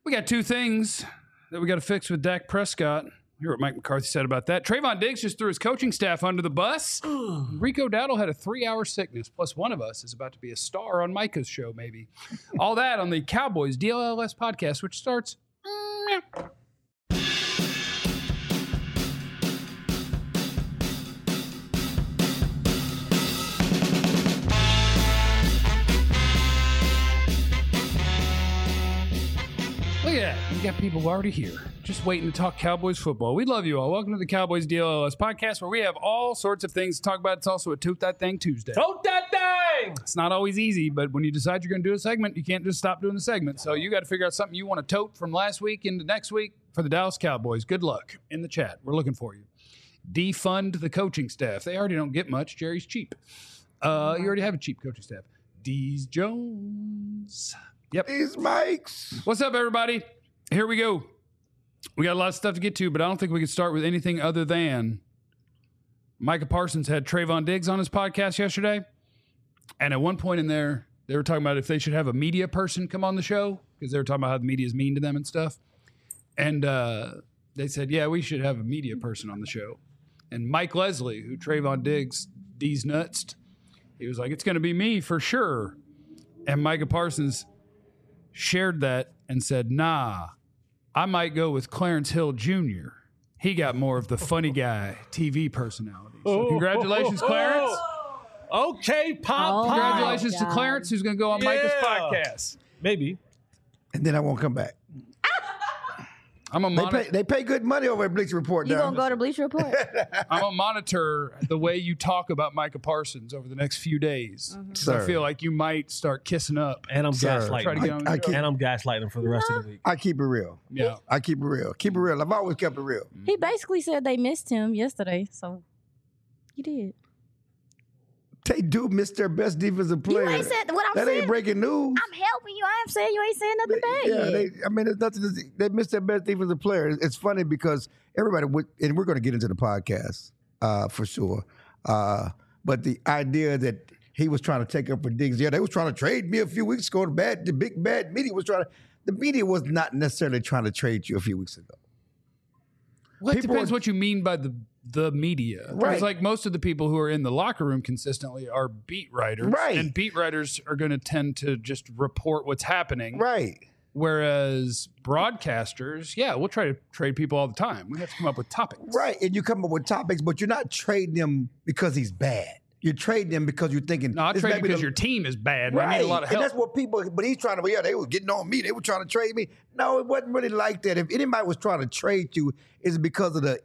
We got two things that we got to fix with Dak Prescott. Hear what Mike McCarthy said about that. Trayvon Diggs just threw his coaching staff under the bus. Rico Dowdle had a 3-hour sickness. Plus, one of us is about to be a star on Micah's show, maybe. All that on the Cowboys DLLS podcast, which starts... Look at that. We got people already here, just waiting to talk Cowboys football. We love you all. Welcome to the Cowboys DLLS podcast, where we have all sorts of things to talk about. It's also a Tote That Thing Tuesday. Tote that thing! It's not always easy, but when you decide you're going to do a segment, you can't just stop doing the segment. So you got to figure out something you want to tote from last week into next week for the Dallas Cowboys. Good luck in the chat. We're looking for you. Defund the coaching staff. They already don't get much. Jerry's cheap. You already have a cheap coaching staff. Dees Jones. Yep. These mics. What's up, everybody? Here we go. We got a lot of stuff to get to, but I don't think we can start with anything other than Micah Parsons had Trayvon Diggs on his podcast yesterday. And at one point in there, they were talking about if they should have a media person come on the show because they were talking about how the media is mean to them and stuff. And they said, yeah, we should have a media person on the show. And Mike Leslie, who Trayvon Diggs D's nuts, he was like, it's going to be me for sure. And Micah Parsons shared that and said, nah, I might go with Clarence Hill Jr. He got more of the funny guy TV personality. So congratulations, Clarence. Okay, Pop. Congratulations to Clarence, who's going to go on Micah's podcast. Maybe. And then I won't come back. I'm a They pay good money over at Bleacher Report. You now. gonna go to Bleacher Report? I'm gonna monitor the way you talk about Micah Parsons over the next few days. So I feel like you might start kissing up. And I'm gaslighting. Try to get on the show. And I'm gaslighting for the rest of the week. I keep it real. Yeah. I keep it real. Keep it real. I've always kept it real. He basically said they missed him yesterday, so you did. They do miss their best defensive player. You ain't said what I'm that saying. Ain't breaking news. I'm helping you. I am saying you ain't saying nothing bad. Yeah, there's nothing. They missed their best defensive player. It's funny because everybody would, and we're going to get into the podcast for sure. But the idea that he was trying to take up for Diggs, they was trying to trade me a few weeks ago. The big bad media was trying to. The media was not necessarily trying to trade you a few weeks ago. Well, it depends what you mean by the media. Right. It's like most of the people who are in the locker room consistently are beat writers. Right. And beat writers are going to tend to just report what's happening. Right. Whereas broadcasters, we'll try to trade people all the time. We have to come up with topics. Right. And you come up with topics, but you're not trading him because he's bad. You're trading him because you're thinking. No, I trade because your team is bad. Right. We need a lot of help. And that's what people, but he's trying to, they were getting on me. They were trying to trade me. No, it wasn't really like that. If anybody was trying to trade you, it's because of the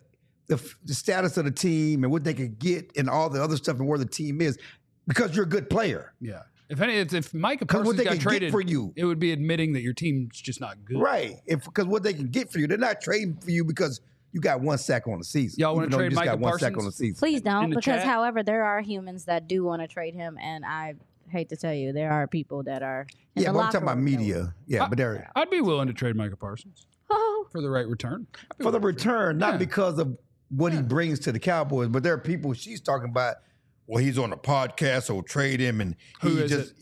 status of the team and what they could get and all the other stuff and where the team is, because you're a good player. Yeah. If Micah Because what Parsons they got can traded get for you. it would be admitting that your team's just not good. Right. Because what they can get for you, they're not trading for you because you got one sack on the season. Y'all want to trade Micah got one sack Parsons? on the season. Please don't, In the because chat? however, there are humans that do want to trade him, and I hate to tell you, there are people that are. In Yeah, the but I'm talking locker about room that media. Yeah, but they're I'd be willing to trade Micah Parsons Oh, for the right return. for the return, not Yeah. because of what he brings to the Cowboys, but there are people she's talking about. Well, he's on a podcast, so trade him, and Who he is just,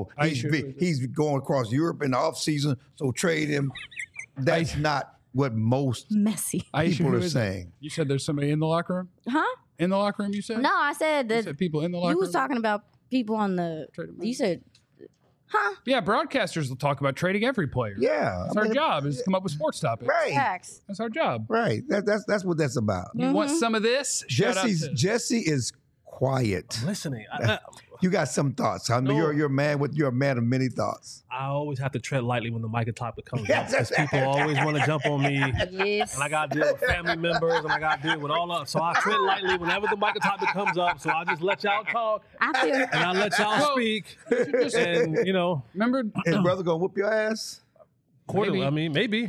it? he's going across Europe in the offseason, so trade him. That's not what most messy. Aisha, people who are is it? saying. You said there's somebody in the locker room? Huh? In the locker room, you said? No, I said You that said people in the locker you room? was talking about people on the. Trade him You out. said, huh? Yeah, broadcasters will talk about trading every player. Yeah, That's our job is to come up with sports topics. Right, Facts. That's our job. right. That's what that's about. You want some of this? Shout out to- Jesse is quiet. Listening. You got some thoughts. I mean, No. you're a man of many thoughts. I always have to tread lightly when the Micah topic comes Yes, up because people always want to jump on me. Yes. And I got to deal with family members and I got to deal with all of. So I tread lightly whenever the Micah topic comes up. So I just let y'all talk I feel. and I let y'all speak. And, Remember? His brother gonna whoop your ass? quarterly. Maybe. I mean, maybe.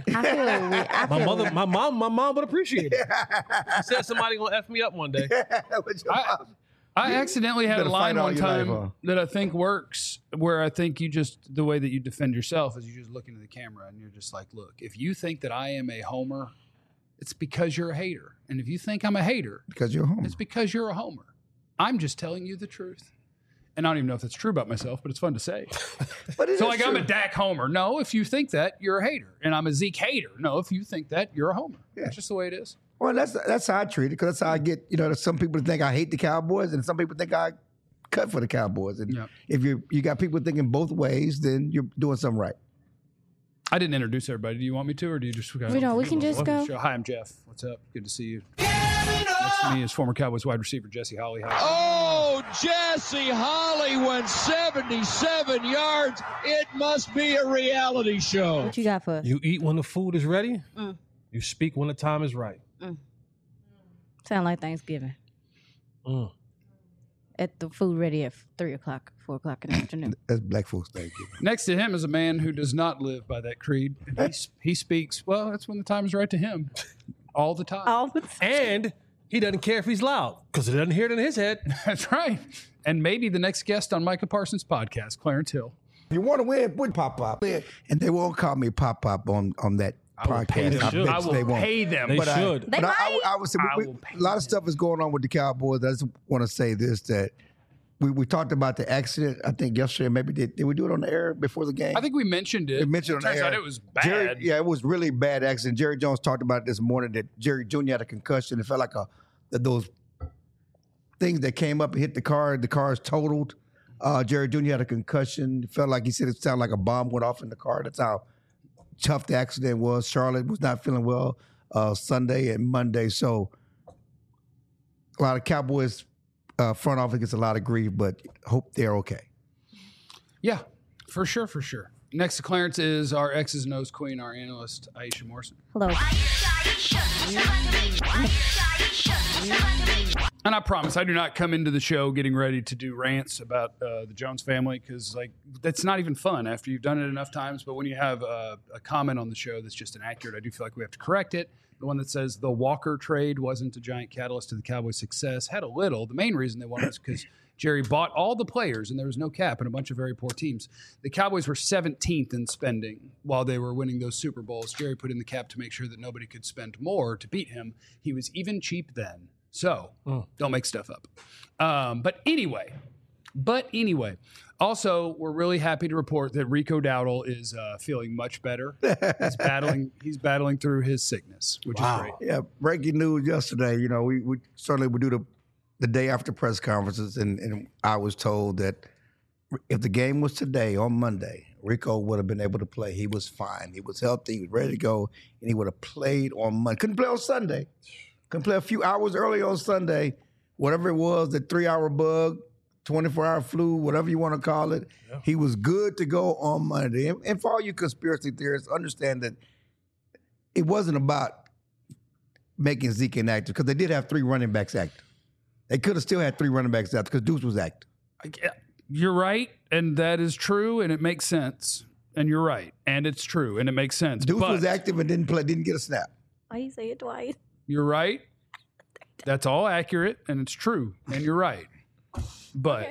I My feel mother, my mom would appreciate it. She said somebody gonna F me up one day. I accidentally had a better line fight all one your life, time huh? that I think works, where I think the way that you defend yourself is you just look into the camera and you're just like, look, if you think that I am a homer, it's because you're a hater. And if you think I'm a hater, Because you're home. it's because you're a homer. I'm just telling you the truth. And I don't even know if that's true about myself, but it's fun to say. But it So, is like, true. I'm a Dak homer. No, if you think that, you're a hater. And I'm a Zeke hater. No, if you think that, you're a homer. That's just the way it is. Well, that's how I treat it, because that's how I get. There's some people think I hate the Cowboys, and some people think I cut for the Cowboys. And Yep. if you got people thinking both ways, then you're doing something right. I didn't introduce everybody. Do you want me to, or do you just? We don't. We can just go. Hi, I'm Jeff. What's up? Good to see you. Next to me is former Cowboys wide receiver Jesse Holly. Hi. Oh, Jesse Holly went 77 yards. It must be a reality show. What you got for us? You eat when the food is ready. You speak when the time is right. Sound like Thanksgiving. At the food ready at 3 o'clock, 4 o'clock in the afternoon. That's black folks thank you. Next to him is a man who does not live by that creed. And he speaks, well, that's when the time is right to him. All the time. All the time. And he doesn't care if he's loud because he doesn't hear it in his head. That's right. And maybe the next guest on Micah Parsons' podcast, Clarence Hill. If you want to win, put Pop. And they won't call me Pop on that podcast. I bet I you they will won't. pay them. They But should. They might. I would say I will pay a lot of stuff is going on with the Cowboys. I just want to say this, that we talked about the accident, I think, yesterday. Maybe did we do it on the air before the game? I think we mentioned it. We mentioned it on Turns the air. out it was bad. It was really bad accident. Jerry Jones talked about it this morning, that Jerry Jr. had a concussion. It felt like those things that came up and hit the car. The car is totaled. Jerry Jr. had a concussion. It felt like he said it sounded like a bomb went off in the car. That's how tough the accident was. Charlotte was not feeling well Sunday and Monday. So a lot of Cowboys front office gets a lot of grief, but hope they're okay. Yeah, for sure. Next to Clarence is our X's and O's queen, our analyst, Aisha Morrison. Hello. And I promise I do not come into the show getting ready to do rants about the Jones family, because that's not even fun after you've done it enough times. But when you have a comment on the show that's just inaccurate, I do feel like we have to correct it. The one that says the Walker trade wasn't a giant catalyst to the Cowboys' success had a little. The main reason they won was because Jerry bought all the players and there was no cap and a bunch of very poor teams. The Cowboys were 17th in spending while they were winning those Super Bowls. Jerry put in the cap to make sure that nobody could spend more to beat him. He was even cheap then. So don't make stuff up. But anyway, also, we're really happy to report that Rico Dowdle is feeling much better. He's battling through his sickness, which is great. Yeah, breaking news yesterday. We certainly would do the day after press conferences, and I was told that if the game was today on Monday, Rico would have been able to play. He was fine. He was healthy. He was ready to go, and he would have played on Monday. Couldn't play on Sunday. Couldn't play a few hours early on Sunday. Whatever it was, the 3-hour bug, 24-hour flu, whatever you want to call it. Yeah. He was good to go on Monday. And for all you conspiracy theorists, understand that it wasn't about making Zeke inactive, because they did have 3 running backs active. They could have still had 3 running backs active because Deuce was active. You're right, and that is true, and it makes sense. And you're right, and it's true, and it makes sense. Deuce was active and didn't get a snap. Why you say it twice? You're right. That's all accurate, and it's true, and you're right. But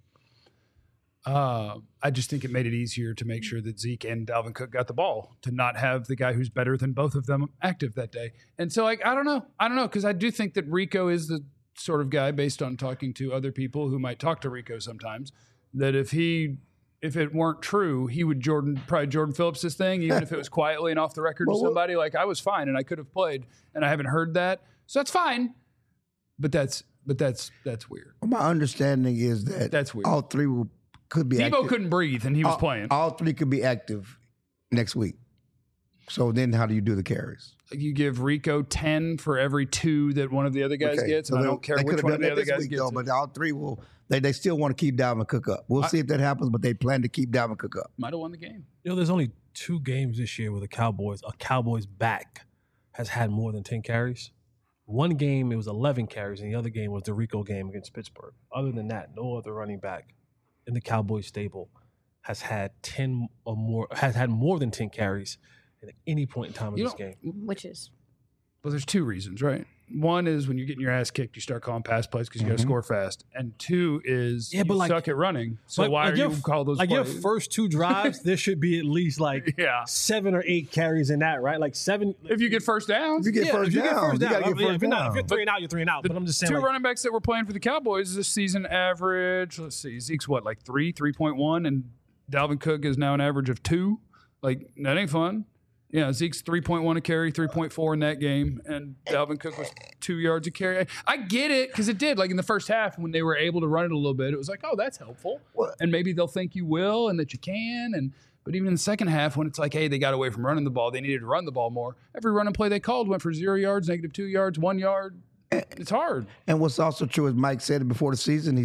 I just think it made it easier to make sure that Zeke and Dalvin Cook got the ball, to not have the guy who's better than both of them active that day. And so, I don't know, because I do think that Rico is the sort of guy, based on talking to other people who might talk to Rico sometimes, that if it weren't true, he would probably Jordan Phillips' thing, even if it was quietly and off the record to somebody. Like, I was fine and I could have played, and I haven't heard that, so that's fine. But that's weird. My understanding is that that's weird. All 3 could be active. Debo couldn't breathe and he was playing. All 3 could be active next week. So then how do you do the carries? You give Rico 10 for every 2 that one of the other guys gets, and I don't care which one of the other guys gets. But all 3 will. They still want to keep Dalvin Cook up. We'll see if that happens, but they plan to keep Dalvin Cook up. Might have won the game. There's only 2 games this year where a Cowboys back has had more than 10 carries. One game, it was 11 carries, and the other game was the Rico game against Pittsburgh. Other than that, no other running back in the Cowboys stable has had 10 or more, has had more than 10 carries at any point in time in this game. Which is? Well, there's 2 reasons, right? one is when you're getting your ass kicked, you start calling pass plays because you got to score fast. And two is Yeah, you but like- suck at running. So why are you call those like plays? your first 2 drives? There should be at least like Yeah. 7 or 8 carries in that, right? Like 7. If you get first downs. If you get first if you down, get first you down, got to get first if you're down. 3 and out, you're 3 and out. But I'm just saying, Two like, running backs that were playing for the Cowboys this season average, let's see, Zeke's what, like 3.1, and Dalvin Cook is now an average of 2. Like, that ain't fun. Yeah, Zeke's 3.1 a carry, 3.4 in that game, and Dalvin Cook was 2 yards a carry. I get it, because it did. Like, in the first half, when they were able to run it a little bit, it was like, oh, that's helpful. Well- And maybe they'll think you will and that you can. But even in the second half, when it's like, hey, they got away from running the ball, they needed to run the ball more. Every running play they called went for 0 yards, -2 yards, 1 yard. It's hard. And what's also true, as Mike said before the season,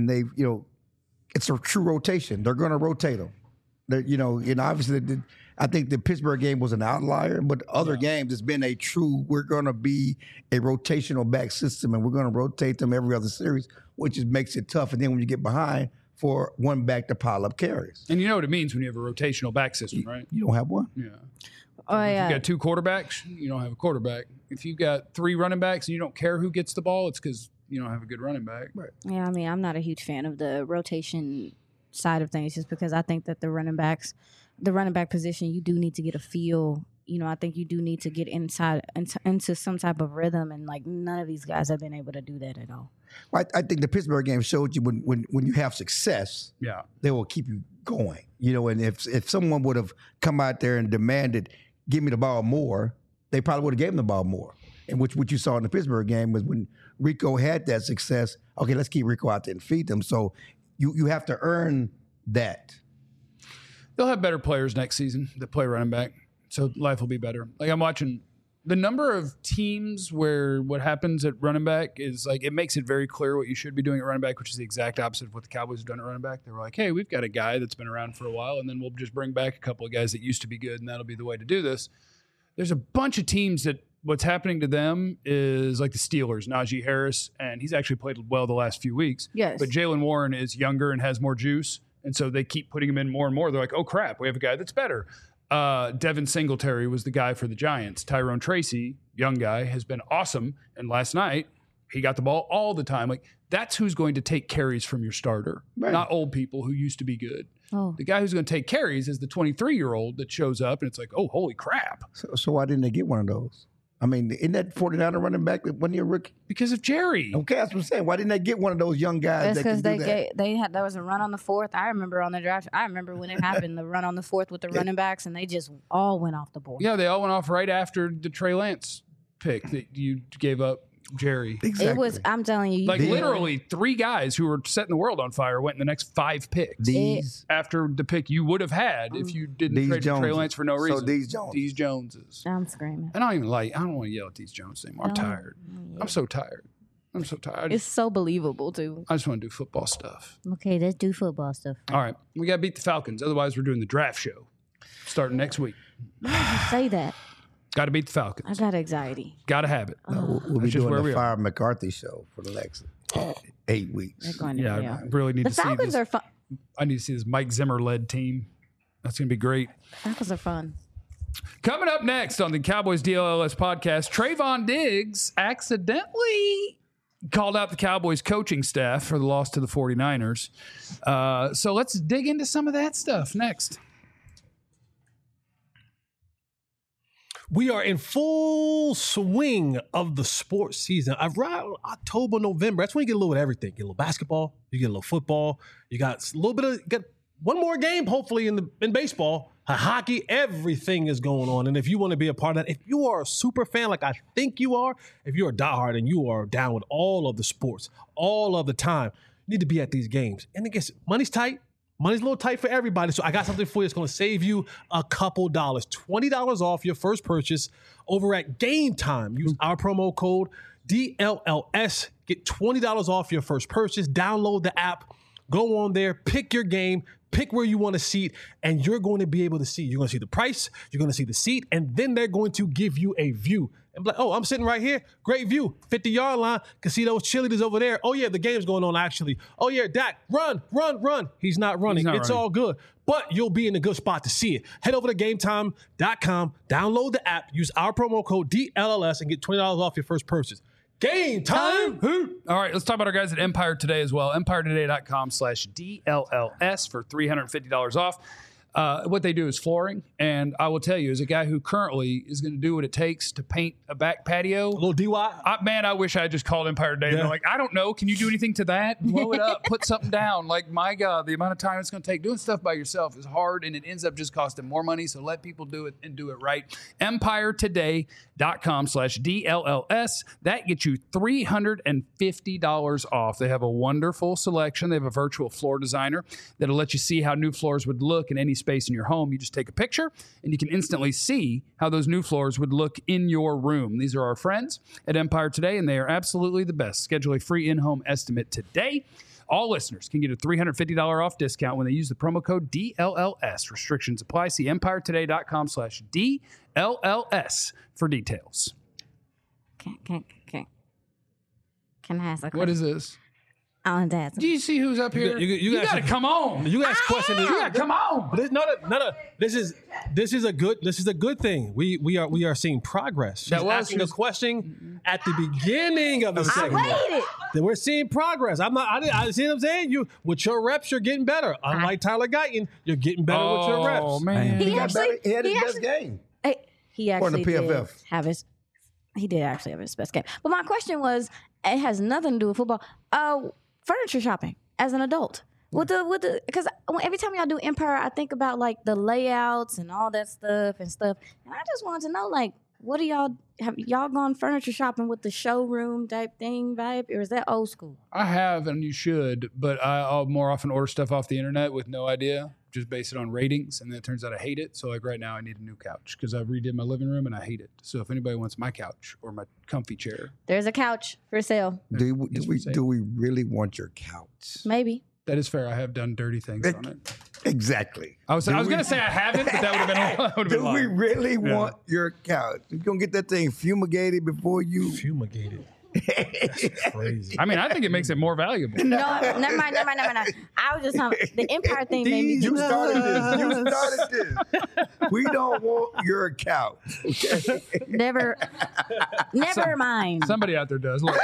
it's a true rotation. They're going to rotate them. Obviously, I think the Pittsburgh game was an outlier, but other games, it's been a true, we're going to be a rotational back system, and we're going to rotate them every other series, which makes it tough. And then when you get behind, for one back to pile up carries. And you know what it means when you have a rotational back system, right? You don't have one. Yeah. Oh If yeah. you got 2 quarterbacks, you don't have a quarterback. If you've got 3 running backs and you don't care who gets the ball, it's because you don't have a good running back. Right. Yeah, I mean, I'm not a huge fan of the rotation side of things, just because I think that the running back position, you do need to get a feel. I think you do need to get into some type of rhythm, and like none of these guys have been able to do that at all. Well, I think the Pittsburgh game showed you when you have success, Yeah. they will keep you going. And if someone would have come out there and demanded, give me the ball more, they probably would have given the ball more. And what you saw in the Pittsburgh game was when Rico had that success, okay, let's keep Rico out there and feed them. So you have to earn that. They'll have better players next season that play running back, so life will be better. Like, I'm watching the number of teams where what happens at running back is like, it makes it very clear what you should be doing at running back, which is the exact opposite of what the Cowboys have done at running back. They were like, hey, we've got a guy that's been around for a while, and then we'll just bring back a couple of guys that used to be good, and that'll be the way to do this. There's a bunch of teams that what's happening to them is like the Steelers, Najee Harris, and he's actually played well the last few weeks. Yes. But Jalen Warren is younger and has more juice, and so they keep putting him in more and more. They're like, oh, crap, we have a guy that's better. Devin Singletary was the guy for the Giants. Tyrone Tracy, young guy, has been awesome, and last night he got the ball all the time. Like, that's who's going to take carries from your starter, Right. not old people who used to be good. Oh, The guy who's going to take carries is the 23-year-old that shows up, and it's like, oh, holy crap. So why didn't they get one of those? I mean, isn't that 49er running back that wasn't he a rookie? Because of Jerry. Okay, that's what I'm saying. Why didn't they get one of those young guys that's that can because do that? there was a run on the 4th. I remember on the draft. I remember when it happened, the run on the 4th with the running backs, and they just all went off the board. Yeah, they all went off right after the Trey Lance pick that you gave up, Jerry. Exactly. It was. I'm telling you, Like, These- literally 3 guys who were setting the world on fire went in the next 5 picks These after the pick you would have had if you didn't trade for Trey Joneses. Lance for no reason. So these Jones. These Joneses. I'm screaming. I don't want to yell at these Jones anymore. I'm No. tired. I'm so tired. I'm so tired. It's so believable too. I just want to do football stuff. Okay, let's do football stuff. All right. We got to beat the Falcons. Otherwise, we're doing the draft show starting next week. Why did you say that? Got to beat the I Falcons. got anxiety. Got to have it. We'll be That's just doing where we the are. Fire McCarthy show for the next 8 weeks. They're going to Yeah, hell. I really need The to see Falcons this. are fun. I need to see this Mike Zimmer-led team. That's going to be great. Falcons are fun. Coming up next on the Cowboys DLLS podcast, Trayvon Diggs accidentally called out the Cowboys coaching staff for the loss to the 49ers. So let's dig into some of that stuff next. We are in full swing of the sports season. Around October, November, that's when you get a little bit of everything. You get a little basketball, you get a little football, you got a little bit of, get one more game, hopefully, in baseball. Hockey, everything is going on. And if you want to be a part of that, if you are a super fan like I think you are, if you're a diehard and you are down with all of the sports, all of the time, you need to be at these games. And I guess money's tight. Money's a little tight for everybody, so I got something for you that's going to save you a couple dollars. $20 off your first purchase over at Game Time. Use our promo code DLLS. Get $20 off your first purchase. Download the app. Go on there. Pick your game. Pick where you want to seat, and you're going to be able to see. You're going to see the price. You're going to see the seat, and then they're going to give you a view. And be like, oh, I'm sitting right here. Great view. 50-yard line. Can see those cheerleaders over there. Oh, yeah, the game's going on, actually. Oh, yeah, Dak, run. He's not running. not It's running. all good. But you'll be in a good spot to see it. Head over to GameTime.com. Download the app. Use our promo code DLLS and get $20 off your first purchase. Game time. All right, let's talk about our guys at Empire Today as well. EmpireToday.com/DLLS for $350 off. What they do is flooring, and I will tell you, as a guy who currently is going to do what it takes to paint a back patio, A little DY. man, I wish I had just called Empire Today. Yeah. They're like, I don't know. Can you do anything to that? Blow it up. Put something down. Like, my God, the amount of time it's going to take doing stuff by yourself is hard, and it ends up just costing more money. So let people do it and do it right. EmpireToday.com/DLLS. That gets you $350 off. They have a wonderful selection. They have a virtual floor designer that'll let you see how new floors would look in any space in your home. You just take a picture, and you can instantly see how those new floors would look in your room. These are our friends at Empire Today, and they are absolutely the best. Schedule a free in-home estimate today. All listeners can get a $350 off discount when they use the promo code DLLS. Restrictions apply. See EmpireToday.com/DLLS for details. Can I ask a question? What is this? I want to ask. Do you see who's up here? You got to come on. You ask questions. You got to come on. But no. This is a good thing. We are seeing progress. She's asking a question at the beginning of the I segment. waited. Then we're seeing progress. I see what I'm saying. You with your reps, you're getting better. Unlike Tyler Guyton, you're getting better with your reps. Oh, man. He got actually- better. He had his he best actually- game. He According actually to did PFF. have his. He did actually have his best game. But my question was, it has nothing to do with football. Furniture shopping as an adult. Because every time y'all do Empire, I think about like the layouts and all that stuff. And I just wanted to know, like, what do have y'all gone furniture shopping with the showroom type thing vibe, or is that old school? I have, and you should, but I'll more often order stuff off the internet with no idea, just base it on ratings, and then it turns out I hate it. So, like right now, I need a new couch because I redid my living room and I hate it. So, if anybody wants my couch or my comfy chair, There's a couch for sale, Do It's we for sale. do we really want your couch? maybe. that is fair. I have done dirty things on it. Exactly. I was going to say I haven't, but that would have been Do we lying. really want your couch? You gonna get that thing fumigated before you? Fumigated. That's crazy. I mean, I think it makes it more valuable. No, never mind. I was just talking. The Empire thing made me. You started this. You started this. We don't want your couch. Okay? Never mind. Somebody out there does. Look,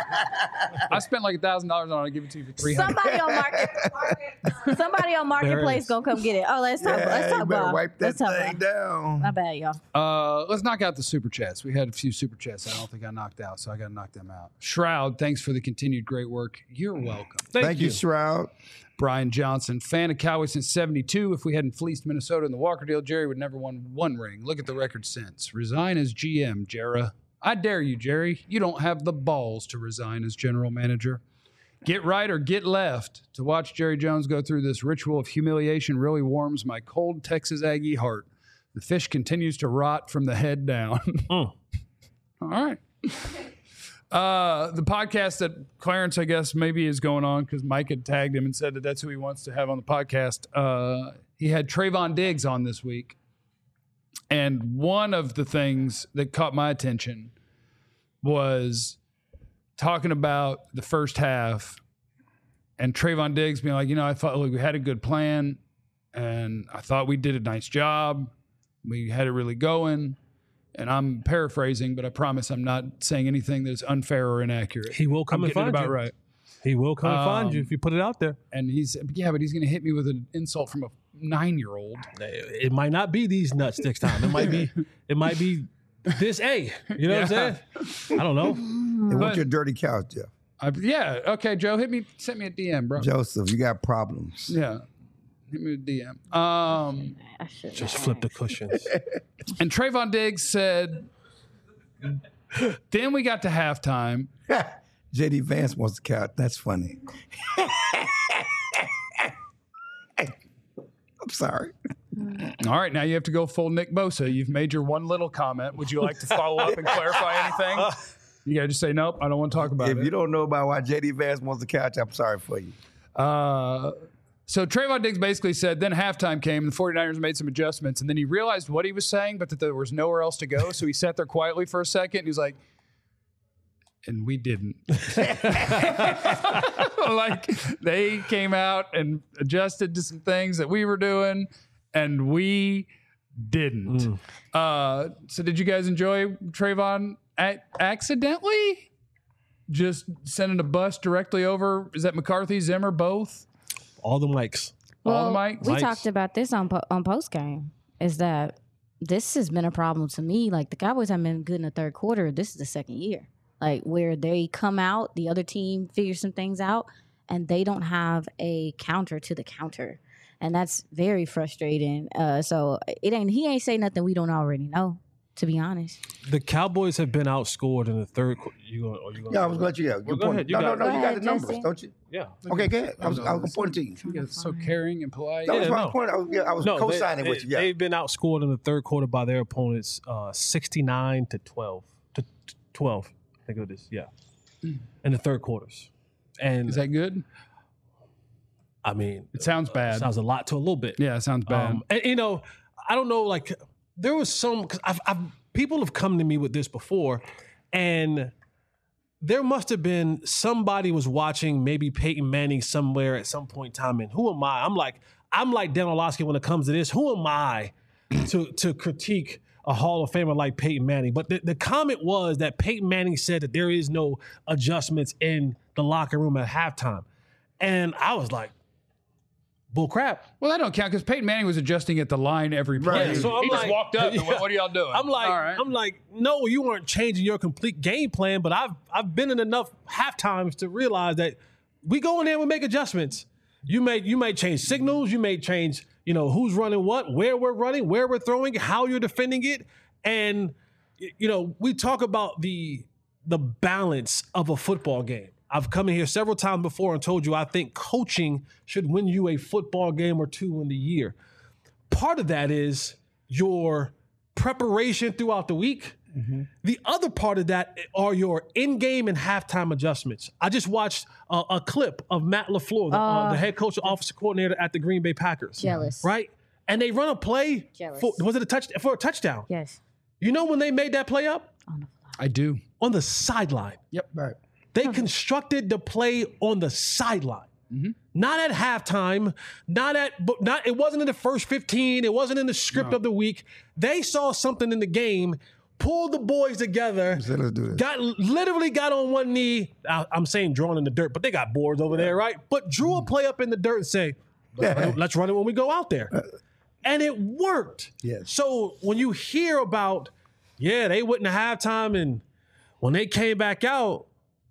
I spent like $1,000 on it. I'll give it to you for $300. Somebody on Marketplace gonna come get it. Oh, let's talk. Let's you talk better about. wipe that Let's talk thing about. down. My bad, y'all. Let's knock out the super chats. We had a few super chats I don't think I knocked out, so I got to knock them out. Shroud, thanks for the continued great work. You're welcome. Thank you, Shroud. Brian Johnson, fan of Cowboys since '72. If we hadn't fleeced Minnesota in the Walker deal, Jerry would never won one ring. Look at the record since. Resign as GM, Jera. I dare you, Jerry. You don't have the balls to resign as general manager. Get right or get left. To watch Jerry Jones go through this ritual of humiliation really warms my cold Texas Aggie heart. The fish continues to rot from the head down. All right. The podcast that Clarence, I guess, maybe is going on because Mike had tagged him and said that that's who he wants to have on the podcast. He had Trayvon Diggs on this week. And one of the things that caught my attention was talking about the first half and Trayvon Diggs being like, I thought we had a good plan and I thought we did a nice job. We had it really going. And I'm paraphrasing, but I promise I'm not saying anything that's unfair or inaccurate. He will come I'm and getting it find about you. right. He will come and find you if you put it out there. And but he's going to hit me with an insult from a 9-year-old. It might not be these nuts next time. It might be this A. You know what I'm saying? I don't know. They want But- your dirty couch, Jeff. Okay, Joe, send me a DM, bro. Joseph, you got problems. Yeah. Hit me a DM. I should Just flip the cushions. And Trayvon Diggs said, then we got to halftime. JD Vance wants the couch. That's funny. I'm sorry. All right, now you have to go full Nick Bosa. You've made your one little comment. Would you like to follow up and clarify anything? You got to just say, nope, I don't want to talk about If it. you don't know about why JD Vance wants the couch, I'm sorry for you. So Trayvon Diggs basically said, then halftime came, and the 49ers made some adjustments, and then he realized what he was saying, but that there was nowhere else to go. So he sat there quietly for a second, and he was like, and we didn't. Like, they came out and adjusted to some things that we were doing, and we didn't. So did you guys enjoy Trayvon accidentally? just sending a bus directly over? Is that McCarthy, Zimmer, both? All the mics. All the mics? We Mics. talked about this on post game. Is that this has been a problem to me? Like the Cowboys haven't been good in the third quarter. This is the second year, like where they come out, the other team figures some things out, and they don't have a counter to the counter, and that's very frustrating. So he ain't say nothing we don't already know. To be honest, The Cowboys have been outscored in the third quarter. Yeah, I was going to let you go. Well, go ahead. You got it. You got ahead, the numbers, Jesse. don't you? Yeah. Okay, go ahead. I was going to point it to you. You guys so caring and polite. That was Yeah, my no. point. I was co-signing with you. Yeah. They've been outscored in the third quarter by their opponents 69 to 12. To 12, I think it is. Yeah. In the third quarters. And Is that good? I mean, It sounds bad. sounds a lot to a little bit. Yeah, it sounds bad. And, I don't know, like, there was some, because people have come to me with this before, and there must have been somebody was watching maybe Peyton Manning somewhere at some point in time, and who am I? I'm like Dan Orlovsky when it comes to this. Who am I to critique a Hall of Famer like Peyton Manning? But the comment was that Peyton Manning said that there is no adjustments in the locker room at halftime. And I was like, bull crap. Well, that don't count because Peyton Manning was adjusting at the line every play. Right. Yeah, so I'm he just like- walked up. And Yeah. what are y'all doing? I'm like, All right. no, you weren't changing your complete game plan, but I've been in enough half times to realize that we go in there and we make adjustments. You may change signals, you may change, who's running what, where we're running, where we're throwing, how you're defending it. And we talk about the balance of a football game. I've come in here several times before and told you I think coaching should win you a football game or two in the year. Part of that is your preparation throughout the week. Mm-hmm. The other part of that are your in-game and halftime adjustments. I just watched a clip of Matt LaFleur, the head coach and offensive coordinator at the Green Bay Packers. Jealous. Right? And they run a play for a touchdown. Yes. You know when they made that play up? I do. On the sideline. Yep. Right. They constructed the play on the sideline. Mm-hmm. Not at halftime, it wasn't in the first 15, it wasn't in the script of the week. They saw something in the game, pulled the boys together, So let's do this. literally got on one knee. I'm saying drawn in the dirt, but they got boards over there, right? But drew a play up in the dirt and say, let's run it when we go out there. And it worked. Yes. So when you hear about, they went into halftime and when they came back out,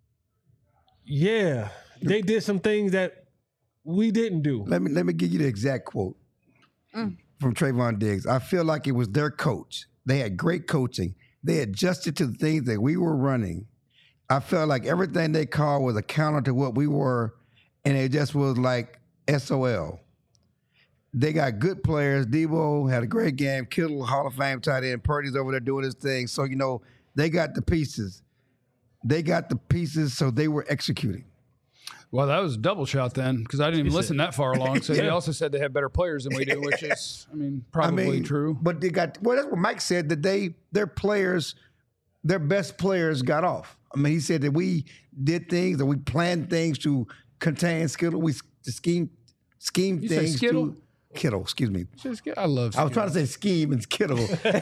they did some things that we didn't do. Let me give you the exact quote from Trayvon Diggs. I feel like it was their coach. They had great coaching. They adjusted to the things that we were running. I felt like everything they called was a counter to what we were, and it just was like SOL. They got good players. Debo had a great game. Kittle, Hall of Fame tight end. Purdy's over there doing his thing. So, they got the pieces. So they were executing. Well, that was a double shot then because I didn't even listen that far along. So they also said they have better players than we do, which is, probably true. But that's what Mike said, that their best players got off. He said that we did things, that we planned things to contain Skittle. We schemed You say things Skittle? to Kittle, excuse me. I love I was trying to say scheme and Skittle.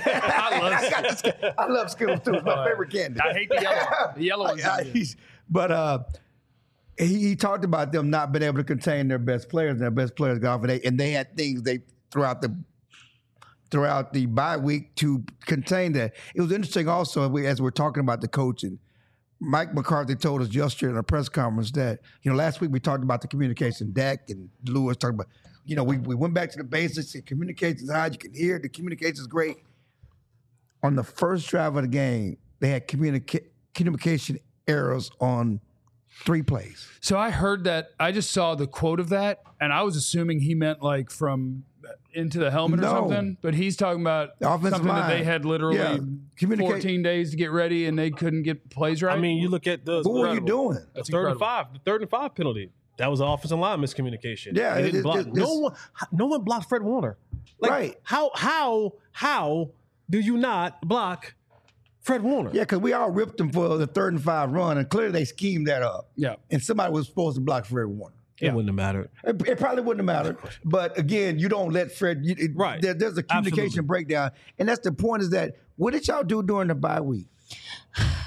I love Skittles too. It's my favorite candy. I hate the yellow. The yellow one's But he talked about them not being able to contain their best players, and their best players got off, and they had things throughout the bye week to contain that. It was interesting also as we're talking about the coaching. Mike McCarthy told us yesterday in a press conference that, last week we talked about the communication. Dak and Lewis talked about, we went back to the basics. The communication's high. You can hear it. The communication's great. On the first drive of the game, they had communication errors on 3 plays. So I heard that. I just saw the quote of that, and I was assuming he meant like from into the helmet or No. something. But he's talking about The offensive something that line. they had literally Yeah. 14 days to get ready, and they couldn't get plays right. You look at the What were you doing? the third and five penalty. That was an offensive line miscommunication. Yeah, They didn't block. No one blocked Fred Warner. Right. How do you not block Fred Warner? Yeah, because we all ripped them for the 3rd and 5 run, and clearly they schemed that up. Yeah. And somebody was supposed to block Fred Warner. It wouldn't have mattered. It probably wouldn't have mattered. But again, you don't let Fred. Right. There's a communication Absolutely. breakdown, and that's the point. Is that what did y'all do during the bye week?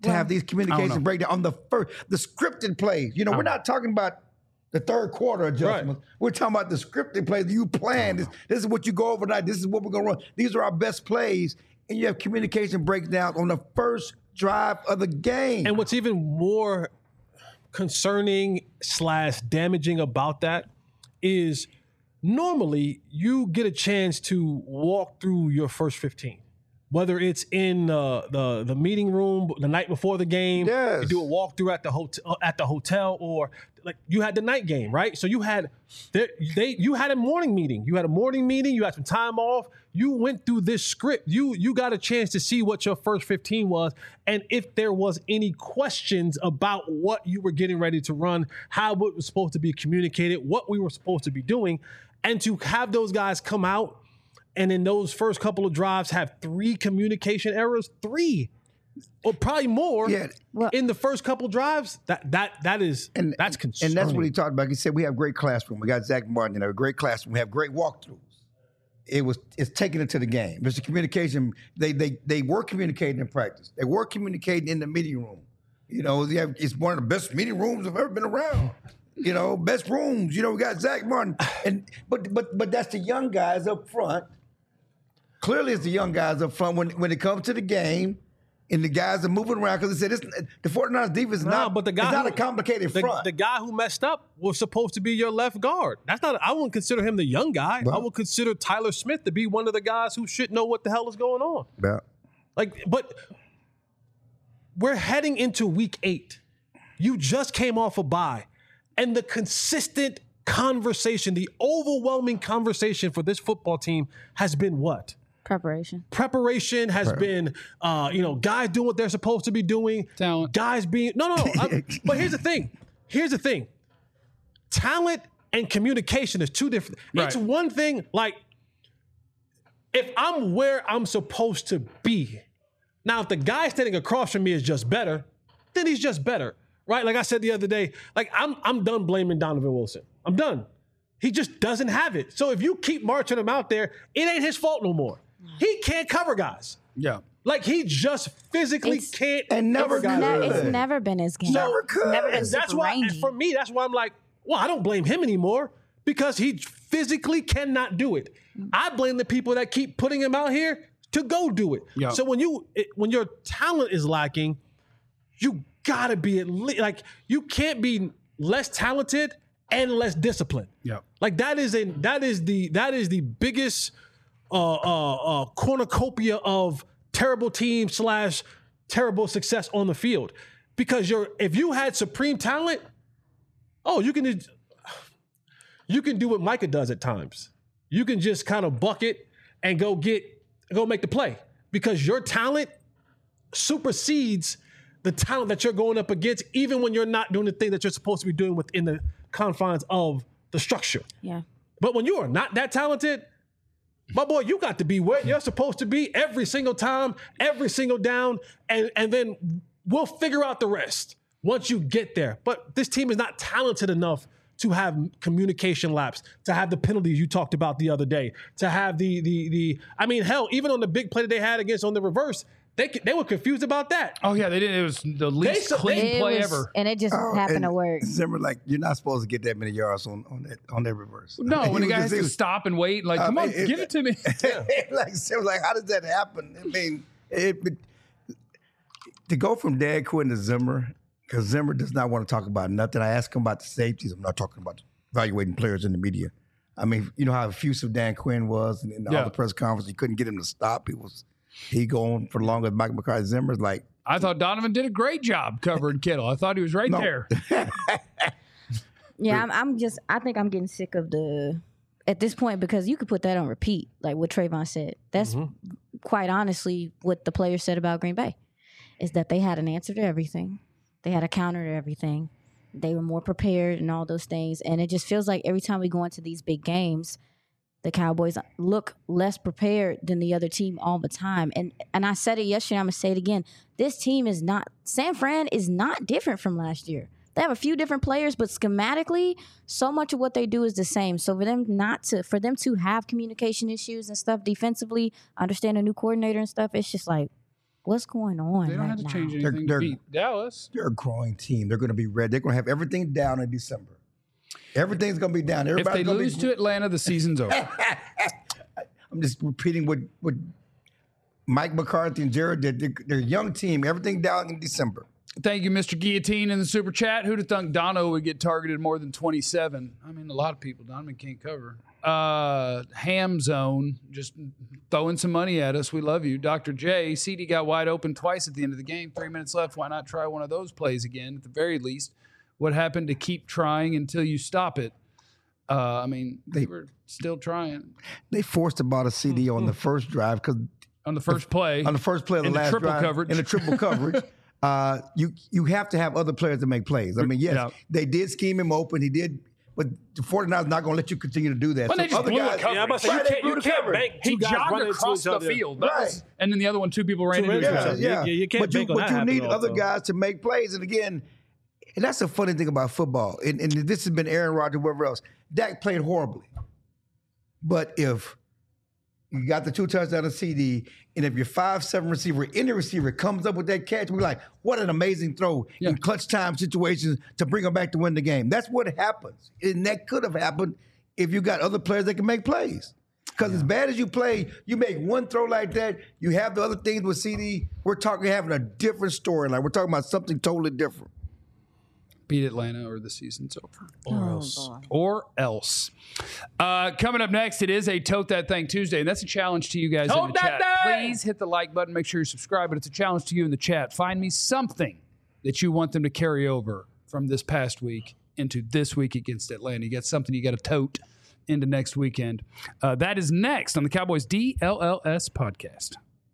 to have these communication breakdown on the scripted plays. You know, we're not talking about the third quarter adjustments. Right. We're talking about the scripted plays. You plan. This is what you go overnight. This is what we're going to run. These are our best plays. And you have communication breakdowns on the first drive of the game. And what's even more concerning / damaging about that is normally you get a chance to walk through your first 15. Whether it's in the meeting room the night before the game, you do a walkthrough at the hotel, or like you had the night game, right? So you had you had a morning meeting. You had some time off. You went through this script. You got a chance to see what your first 15 was, and if there was any questions about what you were getting ready to run, how it was supposed to be communicated, what we were supposed to be doing, and to have those guys come out and in those first couple of drives have 3 communication errors, 3 or probably more in the first couple drives. That's concerning. And that's what he talked about. He said we have great classroom. We got Zach Martin, a great classroom. We have great walkthroughs. It's taking it to the game. There's a communication. They were communicating in practice. They were communicating in the meeting room. You know, it's one of the best meeting rooms I've ever been around. You know, best rooms. You know, we got Zach Martin, but that's the young guys up front. Clearly, it's the young guys up front when it comes to the game, and the guys are moving around because they said the 49ers defense is not a complicated front. The guy who messed up was supposed to be your left guard. I wouldn't consider him the young guy. Well, I would consider Tyler Smith to be one of the guys who should know what the hell is going on. Yeah. But we're heading into week 8. You just came off a bye, and the consistent conversation, the overwhelming conversation for this football team has been what? Preparation has been, guys doing what they're supposed to be doing. Talent. Guys being but here's the thing. Talent and communication is 2 different. Right. It's one thing. Like, if I'm where I'm supposed to be, now if the guy standing across from me is just better, then he's just better, right? Like I said the other day, like I'm done blaming Donovan Wilson. I'm done. He just doesn't have it. So if you keep marching him out there, it ain't his fault no more. He can't cover guys. Yeah. Like, he just physically can't cover guys. It's never been his game. Never could. Never been that's why, rangy. for me, that's why I'm like, well, I don't blame him anymore because he physically cannot do it. I blame the people that keep putting him out here to go do it. Yeah. So when your talent is lacking, you gotta be at least, like, you can't be less talented and less disciplined. Yeah. Like, that is the biggest cornucopia of terrible team / terrible success on the field. Because if you had supreme talent, you can do what Micah does at times. You can just kind of bucket and go make the play, because your talent supersedes the talent that you're going up against, even when you're not doing the thing that you're supposed to be doing within the confines of the structure. Yeah. But when you are not that talented, my boy, you got to be where you're supposed to be every single time, every single down, and then we'll figure out the rest once you get there. But this team is not talented enough to have communication lapse, to have the penalties you talked about the other day, to have I mean, hell, even on the big play that they had against on the reverse, they were confused about that. Oh, yeah, they did. It was the least clean play ever. And it just happened to work. Zimmer, like, you're not supposed to get that many yards on that reverse. No, when the guy has to stop and wait, like, come on, give it to me. like, how does that happen? I mean, to go from Dan Quinn to Zimmer, because Zimmer does not want to talk about nothing. I asked him about the safeties. I'm not talking about evaluating players in the media. I mean, you know how effusive Dan Quinn was in all the press conference. You couldn't get him to stop. He going for longer than Mike McCarthy. Zimmer's like, I thought Donovan did a great job covering Kittle. I thought he was right there. Yeah, I think I'm getting sick of at this point, because you could put that on repeat, like what Trayvon said. That's quite honestly what the players said about Green Bay, is that they had an answer to everything. They had a counter to everything. They were more prepared and all those things. And it just feels like every time we go into these big games, the Cowboys look less prepared than the other team all the time. And I said it yesterday, I'm going to say it again. This team San Fran is not different from last year. They have a few different players, but schematically, so much of what they do is the same. So for them to have communication issues and stuff defensively, understand a new coordinator and stuff, it's just like, What's going on? They don't have to right change now? anything to beat Dallas. They're a growing team. They're going to be ready. They're going to have everything down in December. Everything's going to be down. If Everybody's they gonna lose be, to Atlanta, the season's over. I'm just repeating what Mike McCarthy and Jared did. They're a young team. Everything down in December. Thank you, Mr. Guillotine, in the super chat. Who'd have thunk Dono would get targeted more than 27? I mean, a lot of people. Donovan can't cover. Ham Zone, just throwing some money at us. We love you. Dr. J, CD got wide open twice at the end of the game. 3 minutes left. Why not try one of those plays again? At the very least, what happened to keep trying until you stop it? I mean, they were still trying. They forced about a CD on the first drive because On the first play. on the first play of the in the last triple drive coverage. in the triple coverage. You have to have other players to make plays. I mean, yes, Yeah. they did scheme him open. He did, but the 49ers not going to let you continue to do that. But they just other blew a guys, coverage. Yeah, I'm about to say, Right, they blew you the can't coverage. bank He two guys jogged running across into the each other. field. That Right. was- and then the other one, two people ran into each Tremendous. other. Yeah, You can't but bank on that you need happening other also. guys to make plays. And again, and that's the funny thing about football. And this has been Aaron Rodgers, whoever else. Dak played horribly. But if you got the 2 touchdowns CD, and if your 5'7" receiver, any receiver comes up with that catch, we're like, what an amazing throw in clutch time situations to bring them back to win the game. That's what happens. And that could have happened if you got other players that can make plays. Because as bad as you play, you make one throw like that, you have the other things with CD, we're talking having a different storyline. We're talking about something totally different. Beat Atlanta or the season's over. Or else. boy. Or else. Coming up next, it is a Tote That Thing Tuesday, and that's a challenge to you guys in Tote the that chat. thing! Please hit the like button. Make sure you subscribe, but it's a challenge to you in the chat. Find me something that you want them to carry over from this past week into this week against Atlanta. You got something you got to tote into next weekend. That is next on the Cowboys DLLS podcast.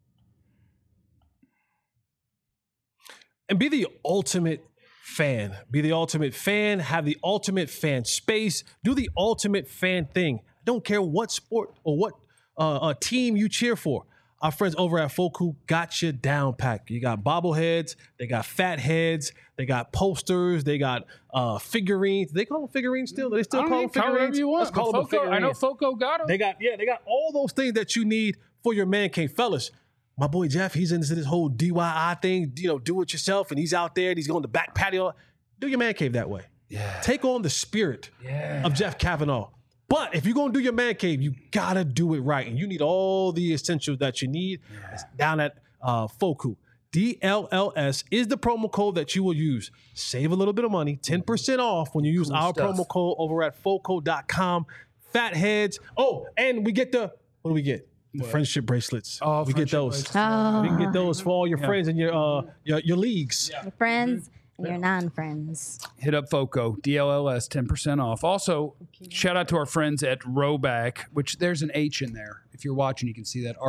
And be the ultimate fan. Be the ultimate fan. Have the ultimate fan space. Do the ultimate fan thing. I don't care what sport or what team you cheer for. Our friends over at Foku got you down packed. You got bobbleheads. They got fat heads. They got posters. They got figurines. They call them figurines still? Do they still call them whatever figurines? you want. Let's call them a Foco, I know figurine. Foco got them. They got all those things that you need for your man cave. Fellas, my boy Jeff, he's into this whole DIY thing, do it yourself, and he's out there and he's going to the back patio. Do your man cave that way. Yeah. Take on the spirit of Jeff Kavanaugh. But if you're going to do your man cave, you got to do it right. And you need all the essentials that you need. It's down at Foku. DLLS is the promo code that you will use. Save a little bit of money, 10% off when you use our stuff. promo code over at Foco.com. Fat heads. Oh, and we get what do we get? The friendship bracelets. Oh, we get friendship those. bracelets. Oh, We can get those for all your friends and your leagues. your friends and your non-friends. Hit up Foco, DLLS, 10% off. Also, shout out to our friends at Roback, which there's an H in there. If you're watching, you can see that.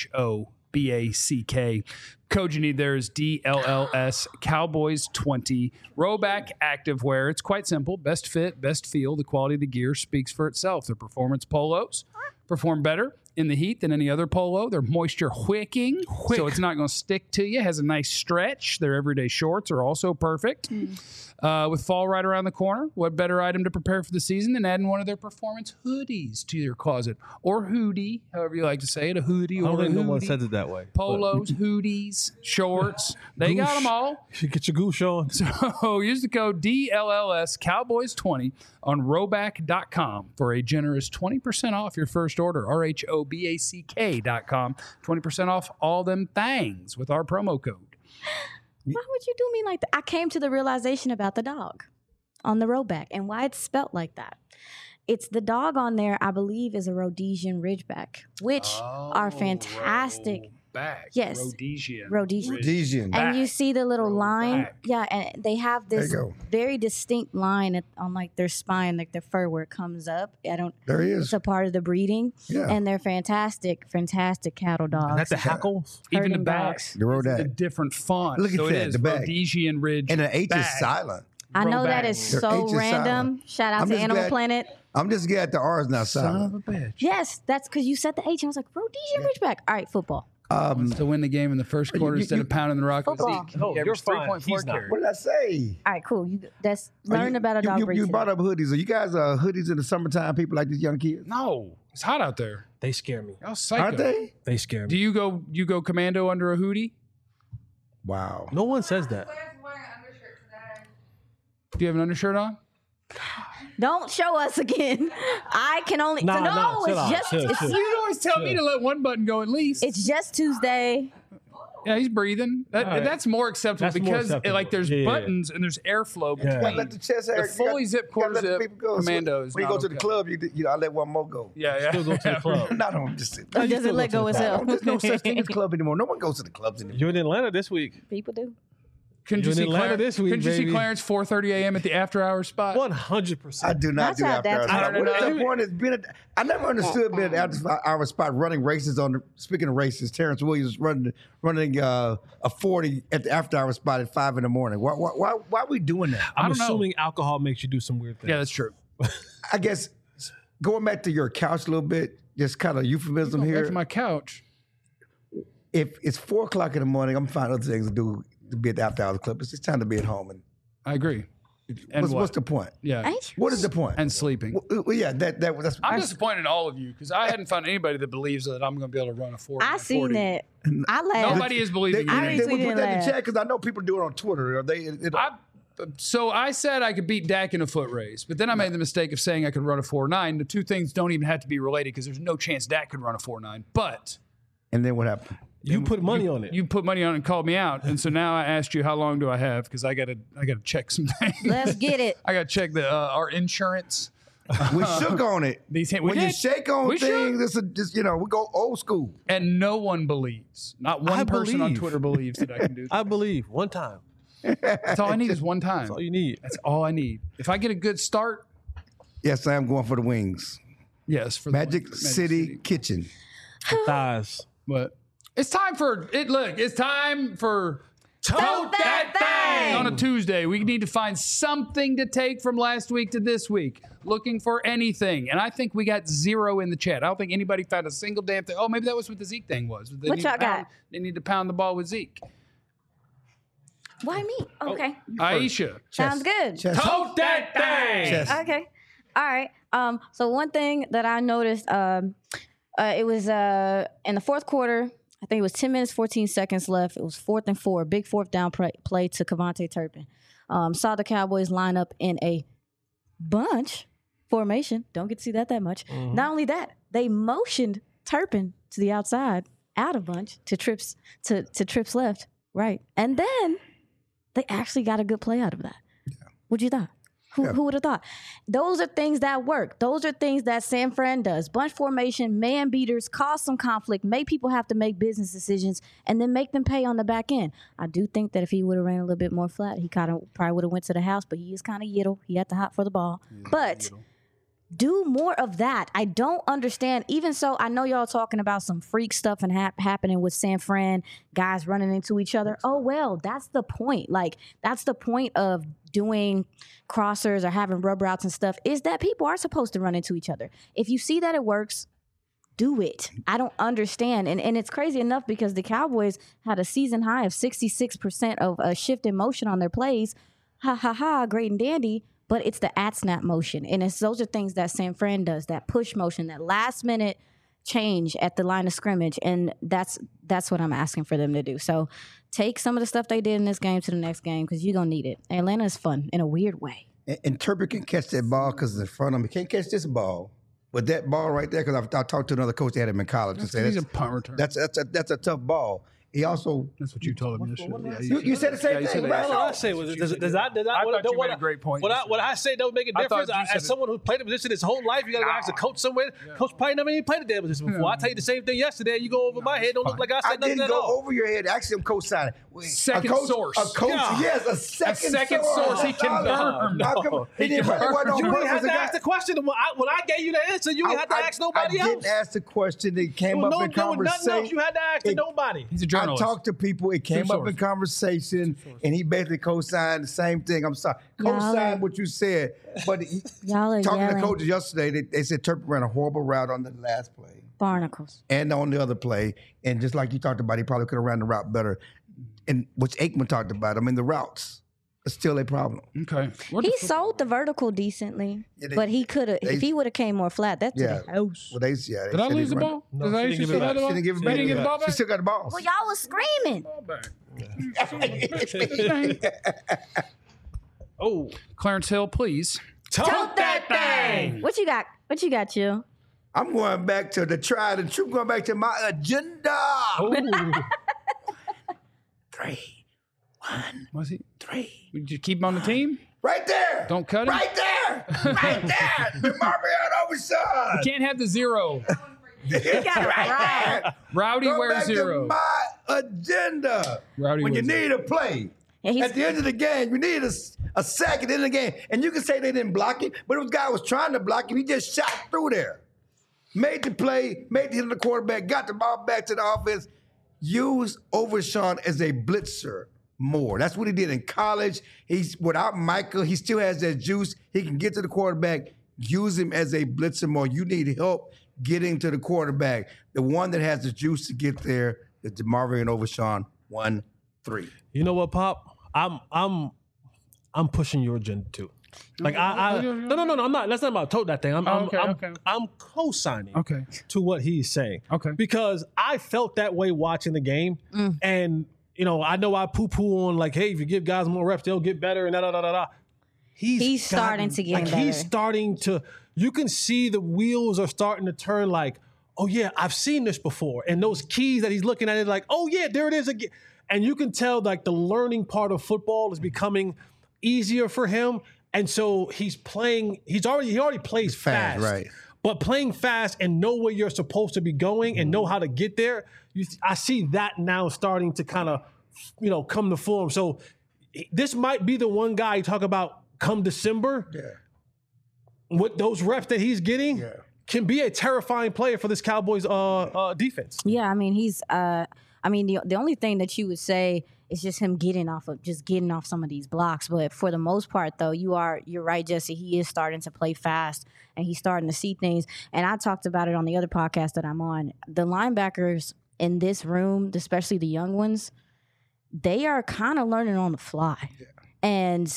RHOBACK. Code you need there is DLLS Cowboys 20. Roback Activewear. It's quite simple. Best fit, best feel. The quality of the gear speaks for itself. Their performance polos perform better in the heat than any other polo. They're moisture wicking, so it's not going to stick to you. Has a nice stretch. Their everyday shorts are also perfect. With fall right around the corner, what better item to prepare for the season than adding one of their performance hoodies to your closet, or hoodie, however you like to say it, a hoodie I or don't a think no one hoodie. says it that way. Polos, hoodies, shorts, they got them all. You get your goose on. So use the code DLLS Cowboys 20 on Roback.com for a generous 20% off your first order. RHOBACK.com. 20% off all them things with our promo code. Why would you do me like that? I came to the realization about the dog on the Roback and why it's spelt like that. It's the dog on there, I believe, is a Rhodesian Ridgeback, which are fantastic. Back. Yes. Rhodesian. Rhodesian. And you see the little line. Roback. Yeah, and they have this There you go. very distinct line on like their spine, like their fur where it comes up. There he It's is. a part of the breeding. Yeah. And they're fantastic cattle dogs. That's the hackles. Even the herding back. dogs. The A Rodak. different font. Look at so that, it is the back. Rhodesian Ridge. And the H back. is silent. I know that Roback. is Their so H is random. silent. Shout out I'm to just Animal glad- Planet. I'm just glad the R is not Son silent. of a bitch. Yes, that's because you said the H. And I was like, Rhodesian Ridgeback. All right, football. To win the game in the first quarter you- instead of pounding the rock with Football. Zeke. No, He you're averaged fine. 3.4 He's not. carries. What did I say? All right, cool. That's learn about a dog breed. You today. brought up hoodies. Are you guys hoodies in the summertime? People like these young kids, No, it's hot out there. They scare me. Y'all psycho. aren't they? They scare me. Do you go commando under a hoodie? Wow. No one says that. Do you have an undershirt on? Don't show us again. I can only. Nah, no, nah, chill it's out, just. chill, it's, chill. You always tell me to let one button go at least. it's just Tuesday. Yeah, he's breathing. right. That's more acceptable That's more because acceptable. like there's Yeah. buttons and there's airflow Yeah. between. Let the chest hair. The fully zip, quarter zip commando is When you not go to the okay. club, you know, I let one more go. Yeah, yeah. Still go to the club. Not on just. Or you does still it let go go to the itself? There's no such thing as club anymore. No one goes to the clubs anymore. You're in Atlanta this week. People do. Couldn't you You're in see Atlanta Clarence this week, Couldn't you see baby. Clarence 4:30 a.m. at the after hours spot? 100%. I do not That's do how after hours. that's spot. how- What is No, no, the point? Is being I never understood being an after hour spot running races on. Speaking of races, Terrence Williams running a 40 at the after hour spot at 5 in the morning. Why are we doing that? I'm don't know. assuming alcohol makes you do some weird things. Yeah, that's true. I guess going back to your couch a little bit, just kind of euphemism Back here. to my couch. If it's 4 o'clock in the morning, I'm finding other things to do to be at the after hours club. It's just time to be at home. And I agree. And what's the point? Yeah, What is the point? and sleeping. Well, yeah, that's. I'm disappointed in all of you because I hadn't found anybody that believes that I'm going to be able to run a 40. I seen that. I laughed. Nobody is believing I in They me. would retweeted put that in that. the chat because I know people do it on Twitter. Or So I said I could beat Dak in a foot race, but then I made the mistake of saying I could run a 4.9. The two things don't even have to be related because there's no chance Dak could run a 4.9. But and then what happened? You put money on it. you put money on it and called me out, and so now I asked you how long do I have because I gotta check some things. Let's get it. I gotta check the our insurance. We shook on it. We When you did. shake on We things, it's just we go old school. And no one believes. Not one I person on believe. Twitter believes that I can do that. I believe one time. That's all I need is one time. That's all you need. That's all I need. If I get a good start, Yes, I am going for the wings. yes, for Magic the City Kitchen. Thighs. But it's time for it. Look, it's time for Tote that thing! on a Tuesday. We need to find something to take from last week to this week. Looking for anything, and I think we got 0 in the chat. I don't think anybody found a single damn thing. Oh, maybe that was what the Zeke thing was. They What need to y'all pound- got? They need to pound the ball with Zeke. Why me? Okay. Aisha, Sounds good. Chest. tote that thing. Chest. Okay. All right. So one thing that I noticed, it was in the fourth quarter. I think it was 10 minutes, 14 seconds left. It was 4th and 4, big fourth down play to Kevontae Turpin. Saw the Cowboys line up in a bunch formation. Don't get to see that much. Not only that, they motioned Turpin to the outside, out of bunch to trips left, right, and then they actually got a good play out of that. What you thought? Who would have thought? Those are things that work. Those are things that San Fran does. Bunch formation, man beaters, cause some conflict, make people have to make business decisions, and then make them pay on the back end. I do think that if he would have ran a little bit more flat, he kind of probably would have went to the house, but he is kind of yiddle. He had to hop for the ball. But do more of that. I don't understand. Even so, I know y'all talking about some freak stuff and happening with San Fran, guys running into each other. Oh, well, that's the point. Like, that's the point of doing crossers or having rub routes and stuff, is that people are supposed to run into each other. If you see that it works, do it. I don't understand. And it's crazy enough because the Cowboys had a season high of 66% of a shift in motion on their plays. Ha, ha, ha, great and dandy. But it's the at-snap motion. And those are things that San Fran does, that push motion, that last-minute change at the line of scrimmage. And that's what I'm asking for them to do. So take some of the stuff they did in this game to the next game because you're going to need it. Atlanta is fun in a weird way. And Turpin can catch that ball because it's in front of him. He can't catch this ball. But that ball right there, because I talked to another coach that had him in college and said He's a punt return. that's a tough ball. He also That's what you told him yesterday. Yeah, you said the same you thing, said right? that. All I say was, does I thought you made a great point What yesterday. I say don't make a I thought difference. you said As it. someone who played the position his whole life, you got to ask a coach somewhere. Coach probably never even played the damn position before. I tell you the same thing yesterday. You go over my head. Don't look like I I said nothing didn't at go all. over your head. Actually, I'm co-signing. Second a coach, source. A coach, Yeah. yes, a second source. He confirmed. How come he didn't write it on You didn't have purpose? to ask the question. When I gave you the answer, you didn't have to ask nobody I else. didn't ask the question. It came There was up in there was nothing else conversation. you had to ask to nobody. He's a I journalist. talked to people. It came up in conversation, and he basically co-signed the same thing. I'm sorry, co-signed what you said, but Y'all are talking to yelling. coaches yesterday, they said Turpin ran a horrible route on the last play Barnacles. and on the other play, and just like you talked about, he probably could have ran the route better, and which Aikman talked about. I mean, the routes. It's still a problem. Okay. He sold the vertical decently, but he could have. If he would have came more flat, that's Yeah. the house. Well, they Did I lose the ball? No, Did I she didn't still give it have the back. ball? She didn't give it back. She didn't get the ball She back? still got the ball. Well, y'all was screaming. Ball back. Oh, Clarence Hill, please. tote that thing. What you got? What you got, Chill? I'm going back to the tried and true. Going back to my agenda. Oh. 3, 1, Was he? 3. Did you keep him on the team? Right there. Don't cut him. Right there. Right there. The Marvin Overshawn. Can't have the 0. You got it right. there. Rowdy Go wears back 0. to my agenda. Rowdy when you wears need a play. Yeah, he's- At the end of the game, you need a sack at the end of the game. And you can say they didn't block him, but this guy was trying to block him. He just shot through there. Made the play, made the hit of the quarterback, got the ball back to the offense. Use Overshawn as a blitzer more. That's what he did in college. He's without Michael, he still has that juice. He can get to the quarterback. Use him as a blitzer more. You need help getting to the quarterback. The one that has the juice to get there is DeMarvion Overshawn 1-3. You know what, Pop? I'm pushing your agenda too. Like no, I'm not. That's not about tote that thing. I'm co-signing Okay. to what he's saying. Okay. Because I felt that way watching the game, and you know I I poo-poo on like, hey, if you give guys more reps, they'll get better, and da da da da. He's starting to get better. He's starting to. You can see the wheels are starting to turn. Like, oh yeah, I've seen this before, and those keys that he's looking at it like, oh yeah, there it is again. And you can tell like the learning part of football is becoming easier for him. And so he's playing, he already plays fast. Right. But playing fast and know where you're supposed to be going and know how to get there, I see that now starting to kind of, come to form. So this might be the one guy you talk about come December. Yeah. With those reps that he's getting, can be a terrifying player for this Cowboys defense. Yeah, I mean, the only thing that you would say is just him getting off some of these blocks. But for the most part, though, you're right, Jesse. He is starting to play fast, and he's starting to see things. And I talked about it on the other podcast that I'm on. The linebackers in this room, especially the young ones, they are kind of learning on the fly. Yeah. And,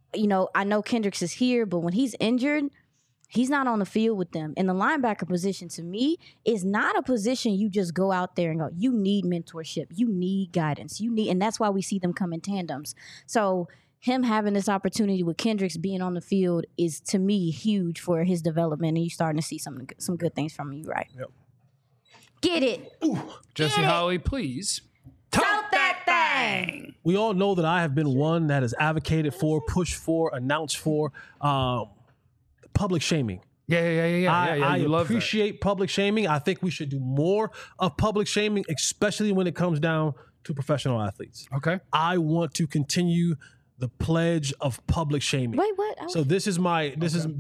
I know Kendricks is here, but when he's injured, he's not on the field with them. And the linebacker position, to me, is not a position you just go out there and go, you need mentorship. You need guidance. And that's why we see them come in tandems. So him having this opportunity with Kendricks being on the field is, to me, huge for his development. And you're starting to see some good things from him, right? Yep. Get it. Ooh, Jesse Holley, please. Tote that thing. We all know that I have been one that has advocated for, pushed for, announced for public shaming. Yeah. I You love appreciate public shaming. I think we should do more of public shaming, especially when it comes down to professional athletes. that. Okay. I want to continue the pledge of public shaming. Wait, what? So this is my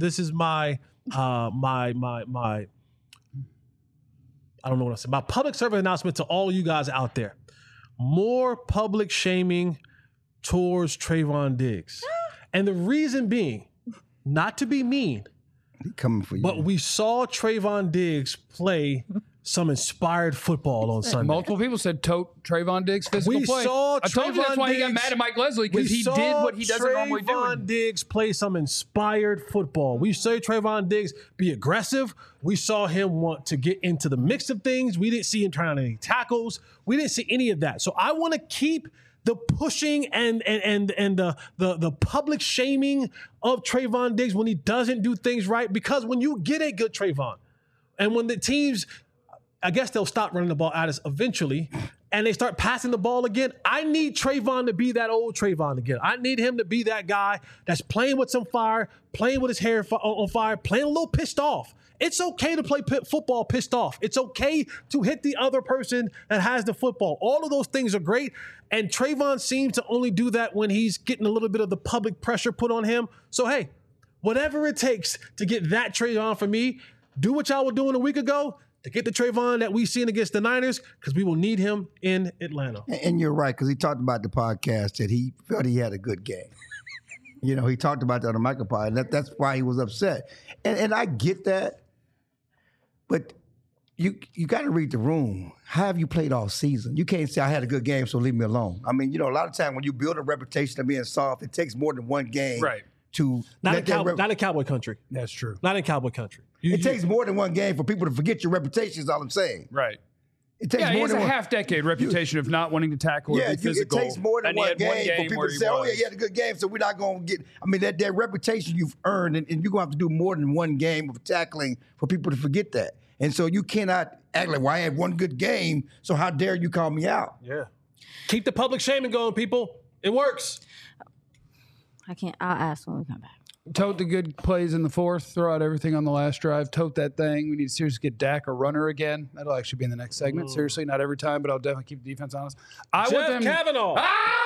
I don't know what I said. My public service announcement to all you guys out there. More public shaming towards Trayvon Diggs. And the reason being, not to be mean, He coming for you. but we saw Trayvon Diggs play some inspired football on Sunday. Multiple people said tote Trayvon Diggs physical We play. saw I told you that's Trayvon why he got Diggs- mad at Mike Leslie, because he did what he doesn't normally do. Trayvon Diggs play some inspired football. We saw Trayvon Diggs be aggressive. We saw him want to get into the mix of things. We didn't see him trying any tackles. We didn't see any of that. So I want to keep the pushing and the public shaming of Trayvon Diggs when he doesn't do things right, because when you get a good Trayvon, and when the teams, I guess they'll stop running the ball at us eventually, and they start passing the ball again, I need Trayvon to be that old Trayvon again. I need him to be that guy that's playing with some fire, playing with his hair on fire, playing a little pissed off. It's okay to play football pissed off. It's okay to hit the other person that has the football. All of those things are great. And Trayvon seems to only do that when he's getting a little bit of the public pressure put on him. So, hey, whatever it takes to get that Trayvon for me, do what y'all were doing a week ago to get the Trayvon that we seen against the Niners, because we will need him in Atlanta. And you're right, because he talked about the podcast that he felt he had a good game. He talked about that on the micropod, and that's why he was upset. And I get that. But you got to read the room. How have you played all season? You can't say I had a good game, so leave me alone. I mean, a lot of time when you build a reputation of being soft, it takes more than one game Right. to Not let in Cowboy country. That's true. Not in Cowboy country. It takes more than one game for people to forget your reputation. Is all I'm saying. Right. It takes Yeah, he more has than a one. half-decade reputation of not wanting to tackle or Yeah, be physical. it takes more than and he one had game for people where to he say, "Oh was. yeah, you had a good game," so we're not going to get. I mean, that reputation you've earned, and you're going to have to do more than one game of tackling for people to forget that. And so you cannot act like, "Well, I had one good game, so how dare you call me out?" Yeah. Keep the public shaming going, people. It works. I'll ask when we come back. Tote the good plays in the fourth. Throw out everything on the last drive. Tote that thing. We need to seriously get Dak a runner again. That'll actually be in the next segment. Seriously, not every time, but I'll definitely keep the defense honest. I Jeff want them. Kavanaugh.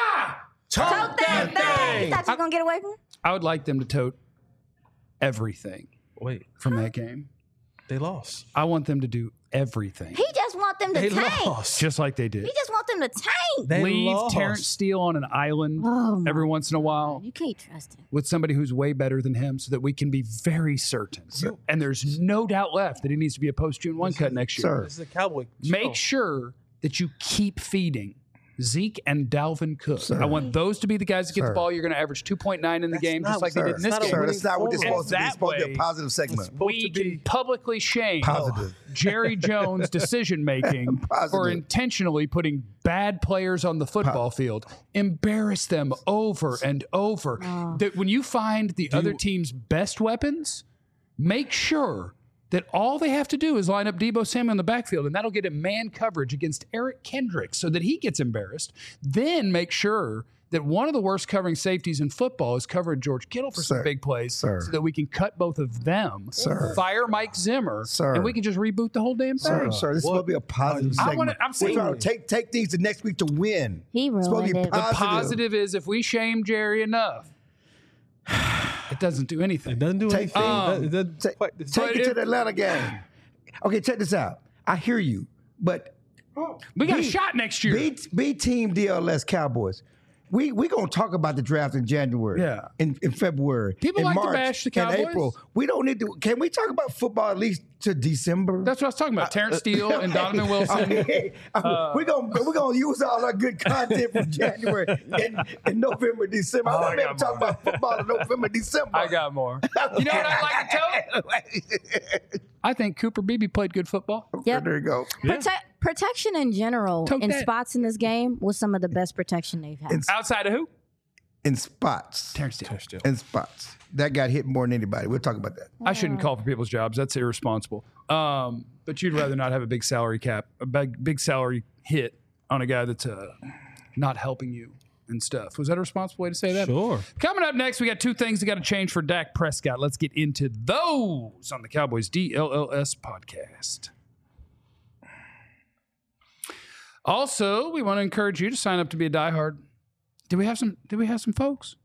Tote that thing. You thought you were gonna get away from it? I would like them to tote everything Wait, from that game. they lost. I want them to do everything, He just want them to They tank. lost. just like they did. He just want them to tank. They Leave lost. Terrence Steele on an island Oh my every once in a while You can't trust him. with somebody who's way better than him, so that we can be very certain. And there's no doubt left that he needs to be a post-June 1 cut next year. Sir. This is a Cowboy show. Make sure that you keep feeding Zeke and Dalvin Cook. Sir. I want those to be the guys that get the Sir. ball. You're going to average 2.9 in the game, not- just like they Sir, did in this not a game. Sir, winning that's not what it's formula. supposed to be. It's And supposed to be that a positive segment. supposed We to be can publicly shame Positive. Jerry Jones' decision making for Positive. intentionally putting bad players on the football field. Embarrass them over and over. That when you find the other team's best weapons, make sure that all they have to do is line up Deebo Samuel in the backfield, and that'll get him man coverage against Eric Kendrick so that he gets embarrassed. Then make sure that one of the worst covering safeties in football is covering George Kittle for some Sir. big plays Sir. so that we can cut both of them, Sir. fire Mike Zimmer, Sir. and we can just reboot the whole damn thing. Sir, this is supposed to be a positive I segment. wanna- I'm saying- We're trying to take things to next week to win. He It's supposed to be ruined it. The positive. positive is if we shame Jerry enough, it doesn't do anything. It doesn't do Take anything. things- It doesn't Take quite- it to the Atlanta game. Okay, check this out. I hear you, but We got a Be- shot next year. be Team DLS Cowboys. We gonna talk about the draft in January. Yeah. In February. People in like to March, bash the in Cowboys. April. We don't need to. Can we talk about football at least to December? That's what I was talking about. Terrence Steele and Donovan Wilson. Okay. We're gonna use all our good content from January in November, December. I I want to be got able to talk more. about football in November, December. I got more. You know what I like to tell? I think Cooper Beebe played good football. Yep. There you go. Protection in general Tote in that. spots in this game was some of the best protection they've had. Outside of who? In spots. Terrence Steele. Still. In spots. That got hit more than anybody. We'll talk about that. I shouldn't call for people's jobs. That's irresponsible. But you'd rather not have a big salary cap, a big salary hit on a guy that's not helping you and stuff. Was that a responsible way to say that? Sure. Coming up next, we got two things that got to change for Dak Prescott. Let's get into those on the Cowboys DLLS podcast. Also, we want to encourage you to sign up to be a diehard. Do we have some folks?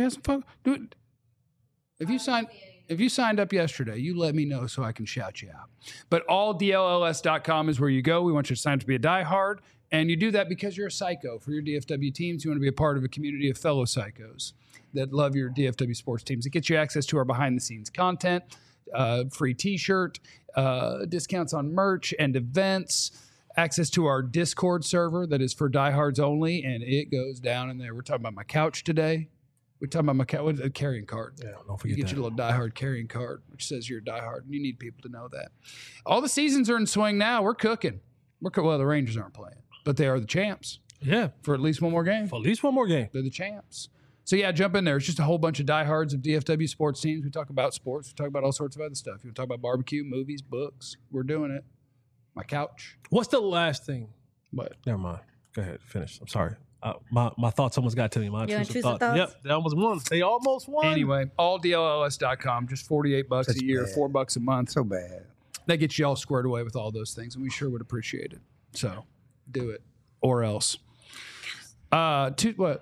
If you signed up yesterday, you let me know so I can shout you out. But alldlls.com is where you go. We want you to sign up to be a diehard. And you do that because you're a psycho for your DFW teams. You want to be a part of a community of fellow psychos that love your DFW sports teams. It gets you access to our behind-the-scenes content, free T-shirt, discounts on merch and events, access to our Discord server that is for diehards only, and it goes down in there. We're talking about my couch today. We're talking about a carrying card. Yeah, don't You forget get that. your little diehard carrying card, which says you're a diehard, and you need people to know that. All the seasons are in swing now. We're cooking. Well, the Rangers aren't playing, but they are the champs Yeah, for at least one more game. for at least one more game. They're the champs. So, yeah, jump in there. It's just a whole bunch of diehards of DFW sports teams. We talk about sports. We talk about all sorts of other stuff. You want to talk about barbecue, movies, books. We're doing it. My couch. What's the last thing? But Never mind. Go ahead. Finish. I'm sorry. My thoughts almost got to me. My Your intrusive intrusive thoughts. thoughts? Yep, they almost won. They almost won. anyway, alldlls.com, just $48 That's a year, bad. $4 a month. So bad. That gets you all squared away with all those things, and we sure would appreciate it. So do it, or else. What?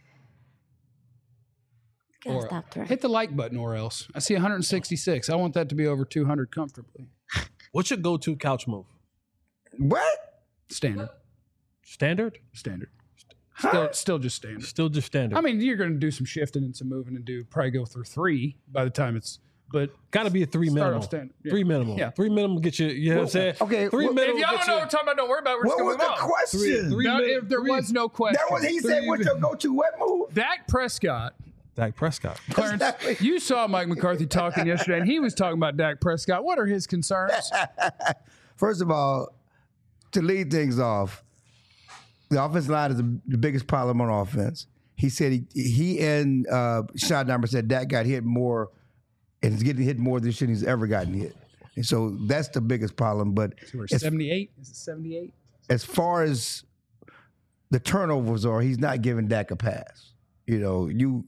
Gotta Or stop throwing. hit the like button, or else. I see 166. I want that to be over 200 comfortably. What's your go-to couch move? What? Standard. Standard? Still just standard. Still just standard. I mean, you're going to do some shifting and some moving and probably go through 3 by the time it's but Got to be a 3 Start minimum. off standard. Yeah. 3 minimum. Yeah. 3 minimum get you know what I'm saying? Okay, 3 well, minimum if y'all get don't know you. what I'm talking about, don't worry about it. We're What was just the going to move on. question? Three No, minutes. if there was no question. That was he said. What's your go-to what move? Dak Prescott. Dak Prescott. Clarence, you saw Mike McCarthy talking yesterday, and he was talking about Dak Prescott. What are his concerns? First of all, to lead things off, the offensive line is the biggest problem on offense. He said he and Schottenheimer said Dak got hit more, and he's getting hit more than he's ever gotten hit. And so that's the biggest problem. But We're 78. Is it 78? as far as the turnovers are, he's not giving Dak a pass. You know, you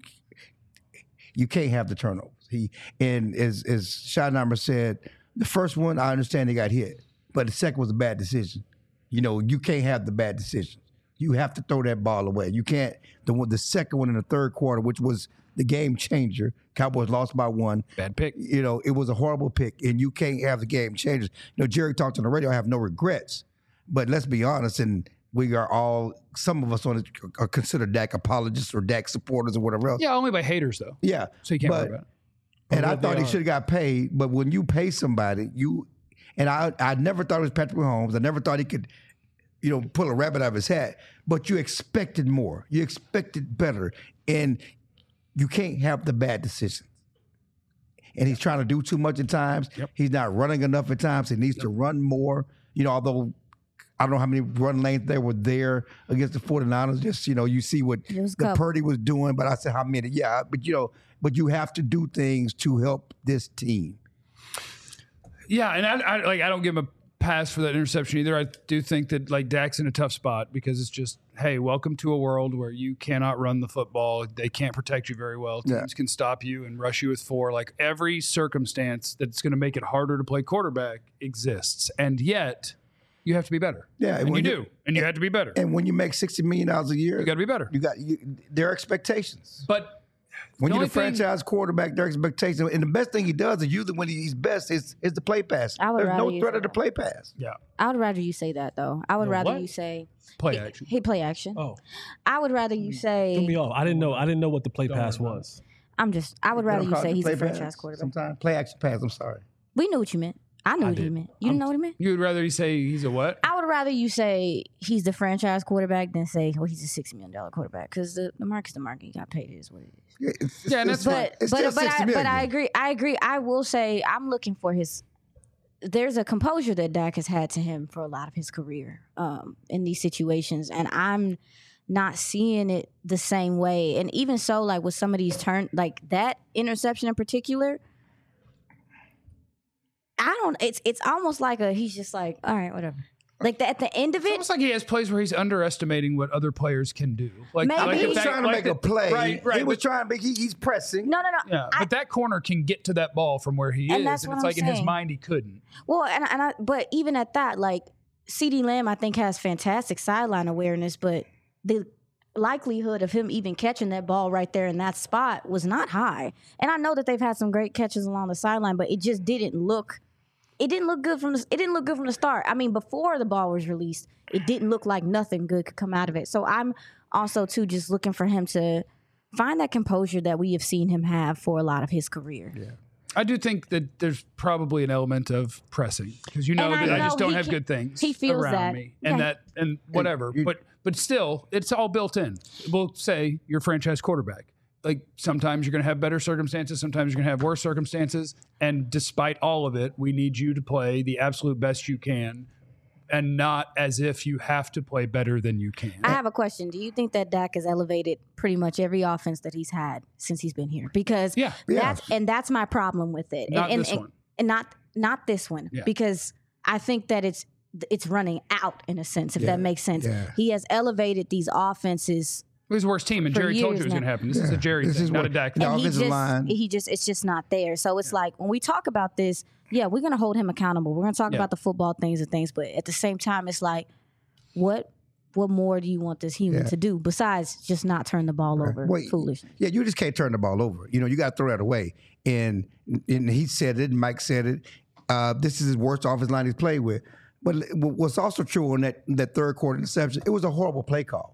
can't have the turnovers. And as Schottenheimer said, the first one, I understand he got hit, but the second was a bad decision. You know, you can't have the bad decisions. You have to throw that ball away. You can't. The second one in the third quarter, which was the game changer, Cowboys lost by 1. Bad pick. You know, it was a horrible pick, and you can't have the game changers. You know, Jerry talked on the radio, I have no regrets. But let's be honest, and we are all, some of us are considered Dak apologists or Dak supporters or whatever else. Yeah, only by haters, though. Yeah. So you can't worry about it. And I But thought they he should have got paid, but when you pay somebody, I never thought it was Patrick Mahomes. I never thought he could, pull a rabbit out of his hat. But you expected more. You expected better. And you can't have the bad decisions. And he's trying to do too much at times. Yep. He's not running enough at times. He needs to run more. Although I don't know how many run lanes there were there against the 49ers. Just, you see what the Purdy was doing. But I said, how many? Yeah, but you have to do things to help this team. Yeah, and I don't give him a pass for that interception either. I do think that Dak's in a tough spot because it's just, hey, welcome to a world where you cannot run the football. They can't protect you very well. Teams can stop you and rush you with 4. Every circumstance that's going to make it harder to play quarterback exists, and yet you have to be better. Yeah, and you do, and you have to be better. And when you make $60 million a year, You got to be better. there are expectations. But when the you're only the franchise quarterback, there are expectations. And the best thing he does is usually when he's best is the play pass. I would There's rather no you threat say of the that. play pass. yeah, I would rather you say that though. I would rather what? you say play action. He play action. Oh, I would rather you say. threw me off. I didn't know what the play pass was. I would rather They don't you call it say the he's play a franchise pass quarterback. Sometimes play action pass. I'm sorry. We knew what you meant. I knew what you did. meant. You didn't know what he meant? You would rather he say he's a what? I would rather you say he's the franchise quarterback than say, well, he's a $60 million quarterback. Because the market's the market. You got paid. It is what it is. Yeah, and that's But it's still $60 million. I agree. I will say I'm looking for his. There's a composure that Dak has had to him for a lot of his career in these situations, and I'm not seeing it the same way. And even so, with some of these that interception in particular, It's almost like he's just all right, whatever. At the end of It's it, almost like he has plays where he's underestimating what other players can do. Maybe. He if was that- trying to make a play. Right. He was but- trying to make. He's pressing. no. Yeah, but that corner can get to that ball from where he And is, that's and what it's I'm in his saying. mind he couldn't. Well, but even at that, CeeDee Lamb, I think has fantastic sideline awareness, but the likelihood of him even catching that ball right there in that spot was not high. And I know that they've had some great catches along the sideline, but it just didn't look. It didn't look good from the start. I mean, before the ball was released, it didn't look like nothing good could come out of it. So I'm also too just looking for him to find that composure that we have seen him have for a lot of his career. Yeah. I do think that there's probably an element of pressing because And I that I know just don't he have can- good things he feels around that. me, Yeah. and whatever. But still, it's all built in. We'll say you're a franchise quarterback. Sometimes you're going to have better circumstances, sometimes you're going to have worse circumstances, and despite all of it, we need you to play the absolute best you can, and not as if you have to play better than you can. I have a question. Do you think that Dak has elevated pretty much every offense that he's had since he's been here? Because that's my problem with it. Not this one. And not this one. Yeah. Because I think that it's running out in a sense, if that makes sense. Yeah. He has elevated these offenses. It was the worst team, and For Jerry told you years it was going to now. happen. This is a Jerry This thing, is not what- a Dak No. thing. And offensive line. it's just not there. So it's when we talk about this, we're going to hold him accountable. We're going to talk about the football things and things, but at the same time, it's what more do you want this human to do besides just not turn the ball over? Foolish. Yeah, you just can't turn the ball over. You got to throw that away. And he said it, and Mike said it. This is his worst offensive line he's played with. But what's also true on that third quarter interception, it was a horrible play call.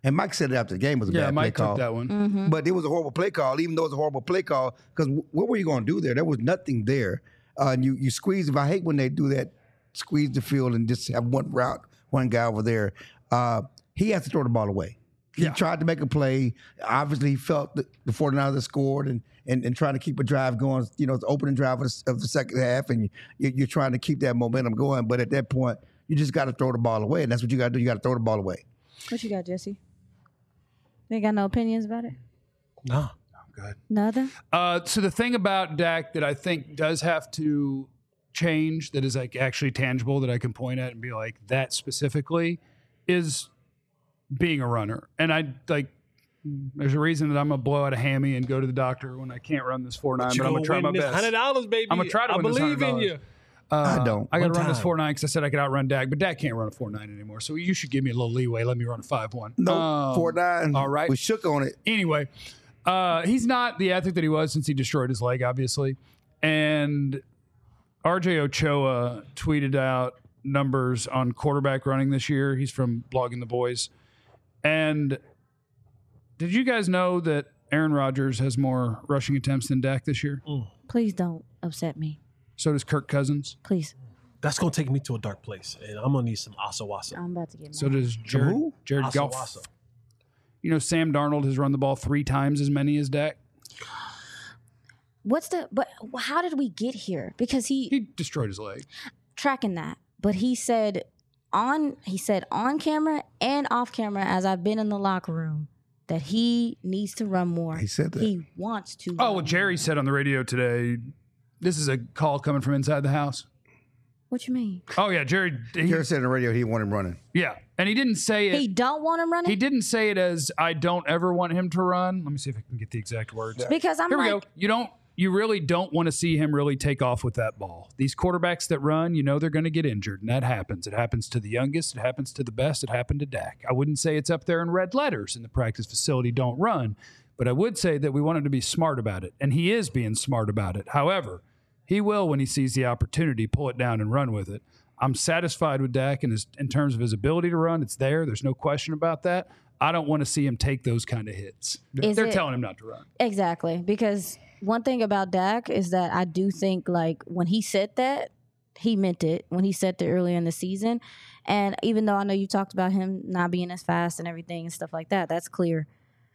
And Mike said it after the game was a bad Mike play call. took that one. Mm-hmm. But it was a horrible play call, even though it was a horrible play call, because what were you going to do there? There was nothing there. And you squeeze, I hate when they do that, squeeze the field and just have one route, one guy over there. He has to throw the ball away. He tried to make a play. Obviously, he felt the 49ers had scored and trying to keep a drive going. You know, it's the opening drive of the second half, and you're trying to keep that momentum going. But at that point, you just got to throw the ball away, and that's what you got to do. You got to throw the ball away. What you got, Jesse? You ain't got no opinions about it? No. Good. Nothing? So the thing about Dak that I think does have to change, that is like actually tangible, that I can point at and be like, that specifically, is being a runner. And I like, there's a reason that I'm gonna blow out a hammy and go to the doctor when I can't run this 4.9, but I'm gonna try my best. $100, baby. I'm gonna try to I win this believe in $100. you. I don't. I got to One run this time. 4.9 because I said I could outrun Dak, but Dak can't run a 4.9 anymore. So you should give me a little leeway. Let me run a 5.1. No, 4.9. all right. We shook on it. Anyway, he's not the athlete that he was since he destroyed his leg, obviously. And RJ Ochoa tweeted out numbers on quarterback running this year. He's from Blogging the Boys. And did you guys know that Aaron Rodgers has more rushing attempts than Dak this year? Please don't upset me. So does Kirk Cousins. Please. That's going to take me to a dark place, and I'm going to need some asawasa. I'm about to get mad. So does Jared Goff. Asawasa. You know, Sam Darnold has run the ball 3 times as many as Dak. But how did we get here? Because He destroyed his leg. tracking that, but he said on camera and off camera, as I've been in the locker room, that he needs to run more. He said that. He wants to. Oh, well, run Jerry more. said on the radio today, this is a call coming from inside the house. What you mean? Oh, yeah, Jerry. Jared said on the radio he wanted him running. Yeah, and he didn't say it. He don't want him running He didn't say it as I don't ever want him to run. Let me see if I can get the exact words. because I'm Here we like, go. You really don't want to see him really take off with that ball. These quarterbacks that run, they're going to get injured, and that happens. It happens to the youngest. It happens to the best. It happened to Dak. I wouldn't say it's up there in red letters in the practice facility, don't run, but I would say that we want him to be smart about it, and he is being smart about it. However, he will, when he sees the opportunity, pull it down and run with it. I'm satisfied with Dak in terms of his ability to run. It's there. There's no question about that. I don't want to see him take those kind of hits. They're telling him not to run. exactly, because one thing about Dak is that I do think, like, when he said that, he meant it when he said that earlier in the season. And even though I know you talked about him not being as fast and everything and stuff like that, that's clear.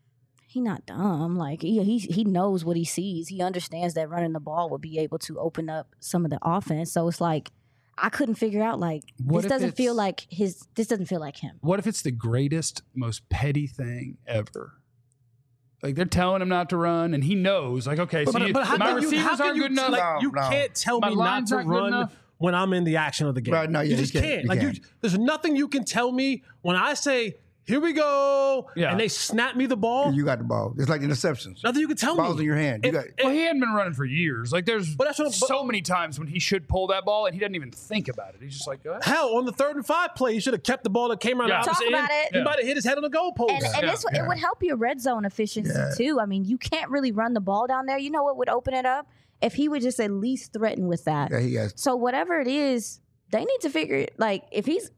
He not dumb. Like, he knows what he sees. He understands that running the ball would be able to open up some of the offense. So it's like, I couldn't figure out, like, What this if doesn't feel it's- like this doesn't feel like him. What if it's the greatest, most petty thing ever? Like, they're telling him not to run, and he knows. Like, okay, so But how my can receivers how can aren't you, good enough. Like, you No. can't tell My me not lines to aren't good run enough. when I'm in the action of the game. Right, no, yeah, you you just can't. can't. You Like, can't. there's nothing you can tell me when I say, "Here we go," Yeah. and they snap me the ball. You got the ball. It's like interceptions. Nothing you can tell Ball's me. in your hand. You got. Well, he hadn't been running for years. Like, there's But that's what- so many times when he should pull that ball, and he doesn't even think about it. He's just like, go ahead. Hell, on the 3rd and 5 play, he should have kept the ball that came around Yeah. the Talk opposite about end. it. He might have hit his head on the goalpost. And it would help your red zone efficiency too. I mean, you can't really run the ball down there. You know what would open it up? If he would just at least threaten with that. Yeah, he has. So whatever it is, they need to figure it. Like, if he's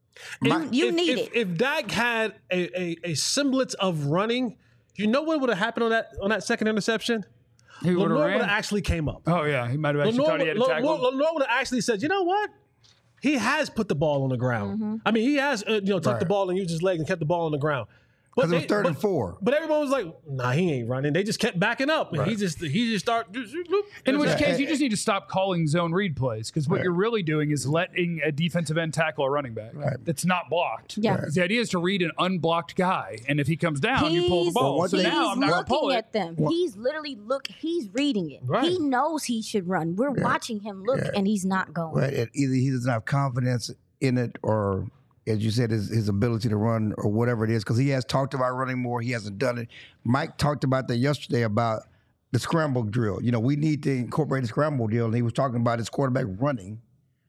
you need it. If Dak had a semblance of running, you know what would have happened on that second interception? He would have Lenore would have ran. actually came up. Oh, yeah. He might have actually thought he had a tackle. Lenore would have actually said, "You know what? He has put the ball on the ground. Mm-hmm. I mean, he has tucked the ball and used his leg and kept the ball on the ground." Because it was 3rd and 4. But everyone was like, "Nah, he ain't running." They just kept backing up, and he just started. In which Yeah. case, you just need to stop calling zone read plays, because what you're really doing is letting a defensive end tackle a running back that's not blocked. Yeah. 'Cause the idea is to read an unblocked guy, and if he comes down, you pull the ball. Well, So he's now I'm not going to pull looking it. at them. He's literally he's reading it. Right. He knows he should run. We're watching him look, and he's not going. Right. And either he doesn't have confidence in it, or as you said, his ability to run, or whatever it is, because he has talked about running more. He hasn't done it. Mike talked about that yesterday about the scramble drill. We need to incorporate the scramble drill, and he was talking about his quarterback running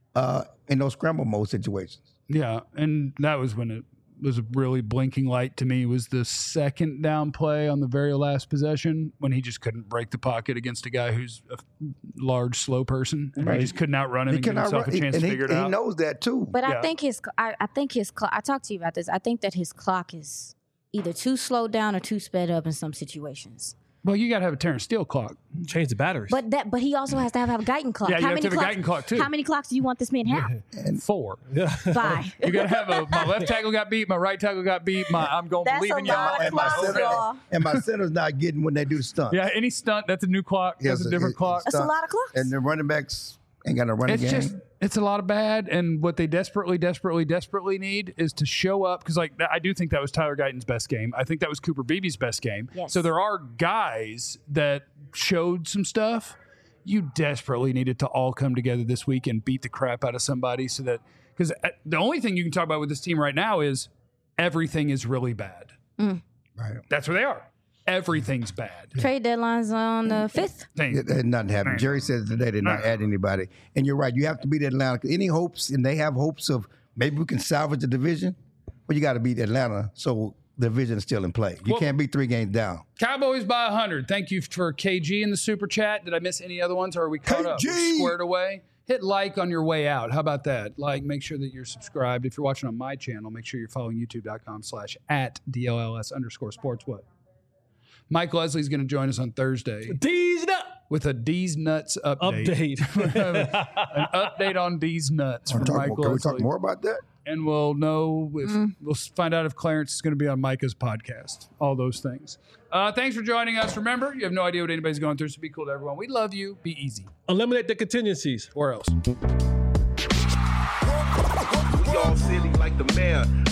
in those scramble mode situations. Yeah, and that was when it was a really blinking light to me, was the second down play on the very last possession when he just couldn't break the pocket against a guy who's a large, slow person. And he just couldn't outrun him and give himself a chance to figure it out. He knows that too. But Yeah. I think his clock. I talked to you about this. I think that his clock is either too slowed down or too sped up in some situations. Well, you got to have a Terrence Steele clock. Change the batteries. But he also has to have a Guyton clock. Yeah, you have to have a Guyton clock, too. How many clocks do you want this man to have? And 4. Bye. You got to have my left tackle got beat, my right tackle got beat, I'm going to That's believe a in you. lot of And my clocks, center, y'all. and my center's not getting when they do the stunt. Yeah, any stunt, that's a new clock. That's a different clock. That's a lot of clocks. And the running backs ain't got a running game. It's a lot of bad, and what they desperately need is to show up, because like I do think that was Tyler Guyton's best game. I think that was Cooper Beebe's best game. Yes. So there are guys that showed some stuff. You desperately needed to all come together this week and beat the crap out of somebody, so that, because the only thing you can talk about with this team right now is everything is really bad. Right. That's where they are. Everything's bad. Trade deadline's on the 5th. Nothing happened. Jerry said today they're not adding anybody. And you're right. You have to beat Atlanta. Any hopes, and they have hopes of maybe we can salvage the division, but you got to beat Atlanta so the division is still in play. You can't be 3 games down. Cowboys by 100. Thank you for KG in the super chat. Did I miss any other ones, or are we caught up? We're squared away. Hit like on your way out. How about that? Like, make sure that you're subscribed. If you're watching on my channel, make sure you're following youtube.com/@DLLS_sports. What? Mike Leslie's going to join us on Thursday D's nuts with a D's Nuts update. An update on D's Nuts from Mike Can we Leslie. talk more about that? And we'll know if we'll find out if Clarence is going to be on Micah's podcast. All those things. Thanks for joining us. Remember, you have no idea what anybody's going through, so be cool to everyone. We love you. Be easy. Eliminate the contingencies. Or else. We all silly like the mayor.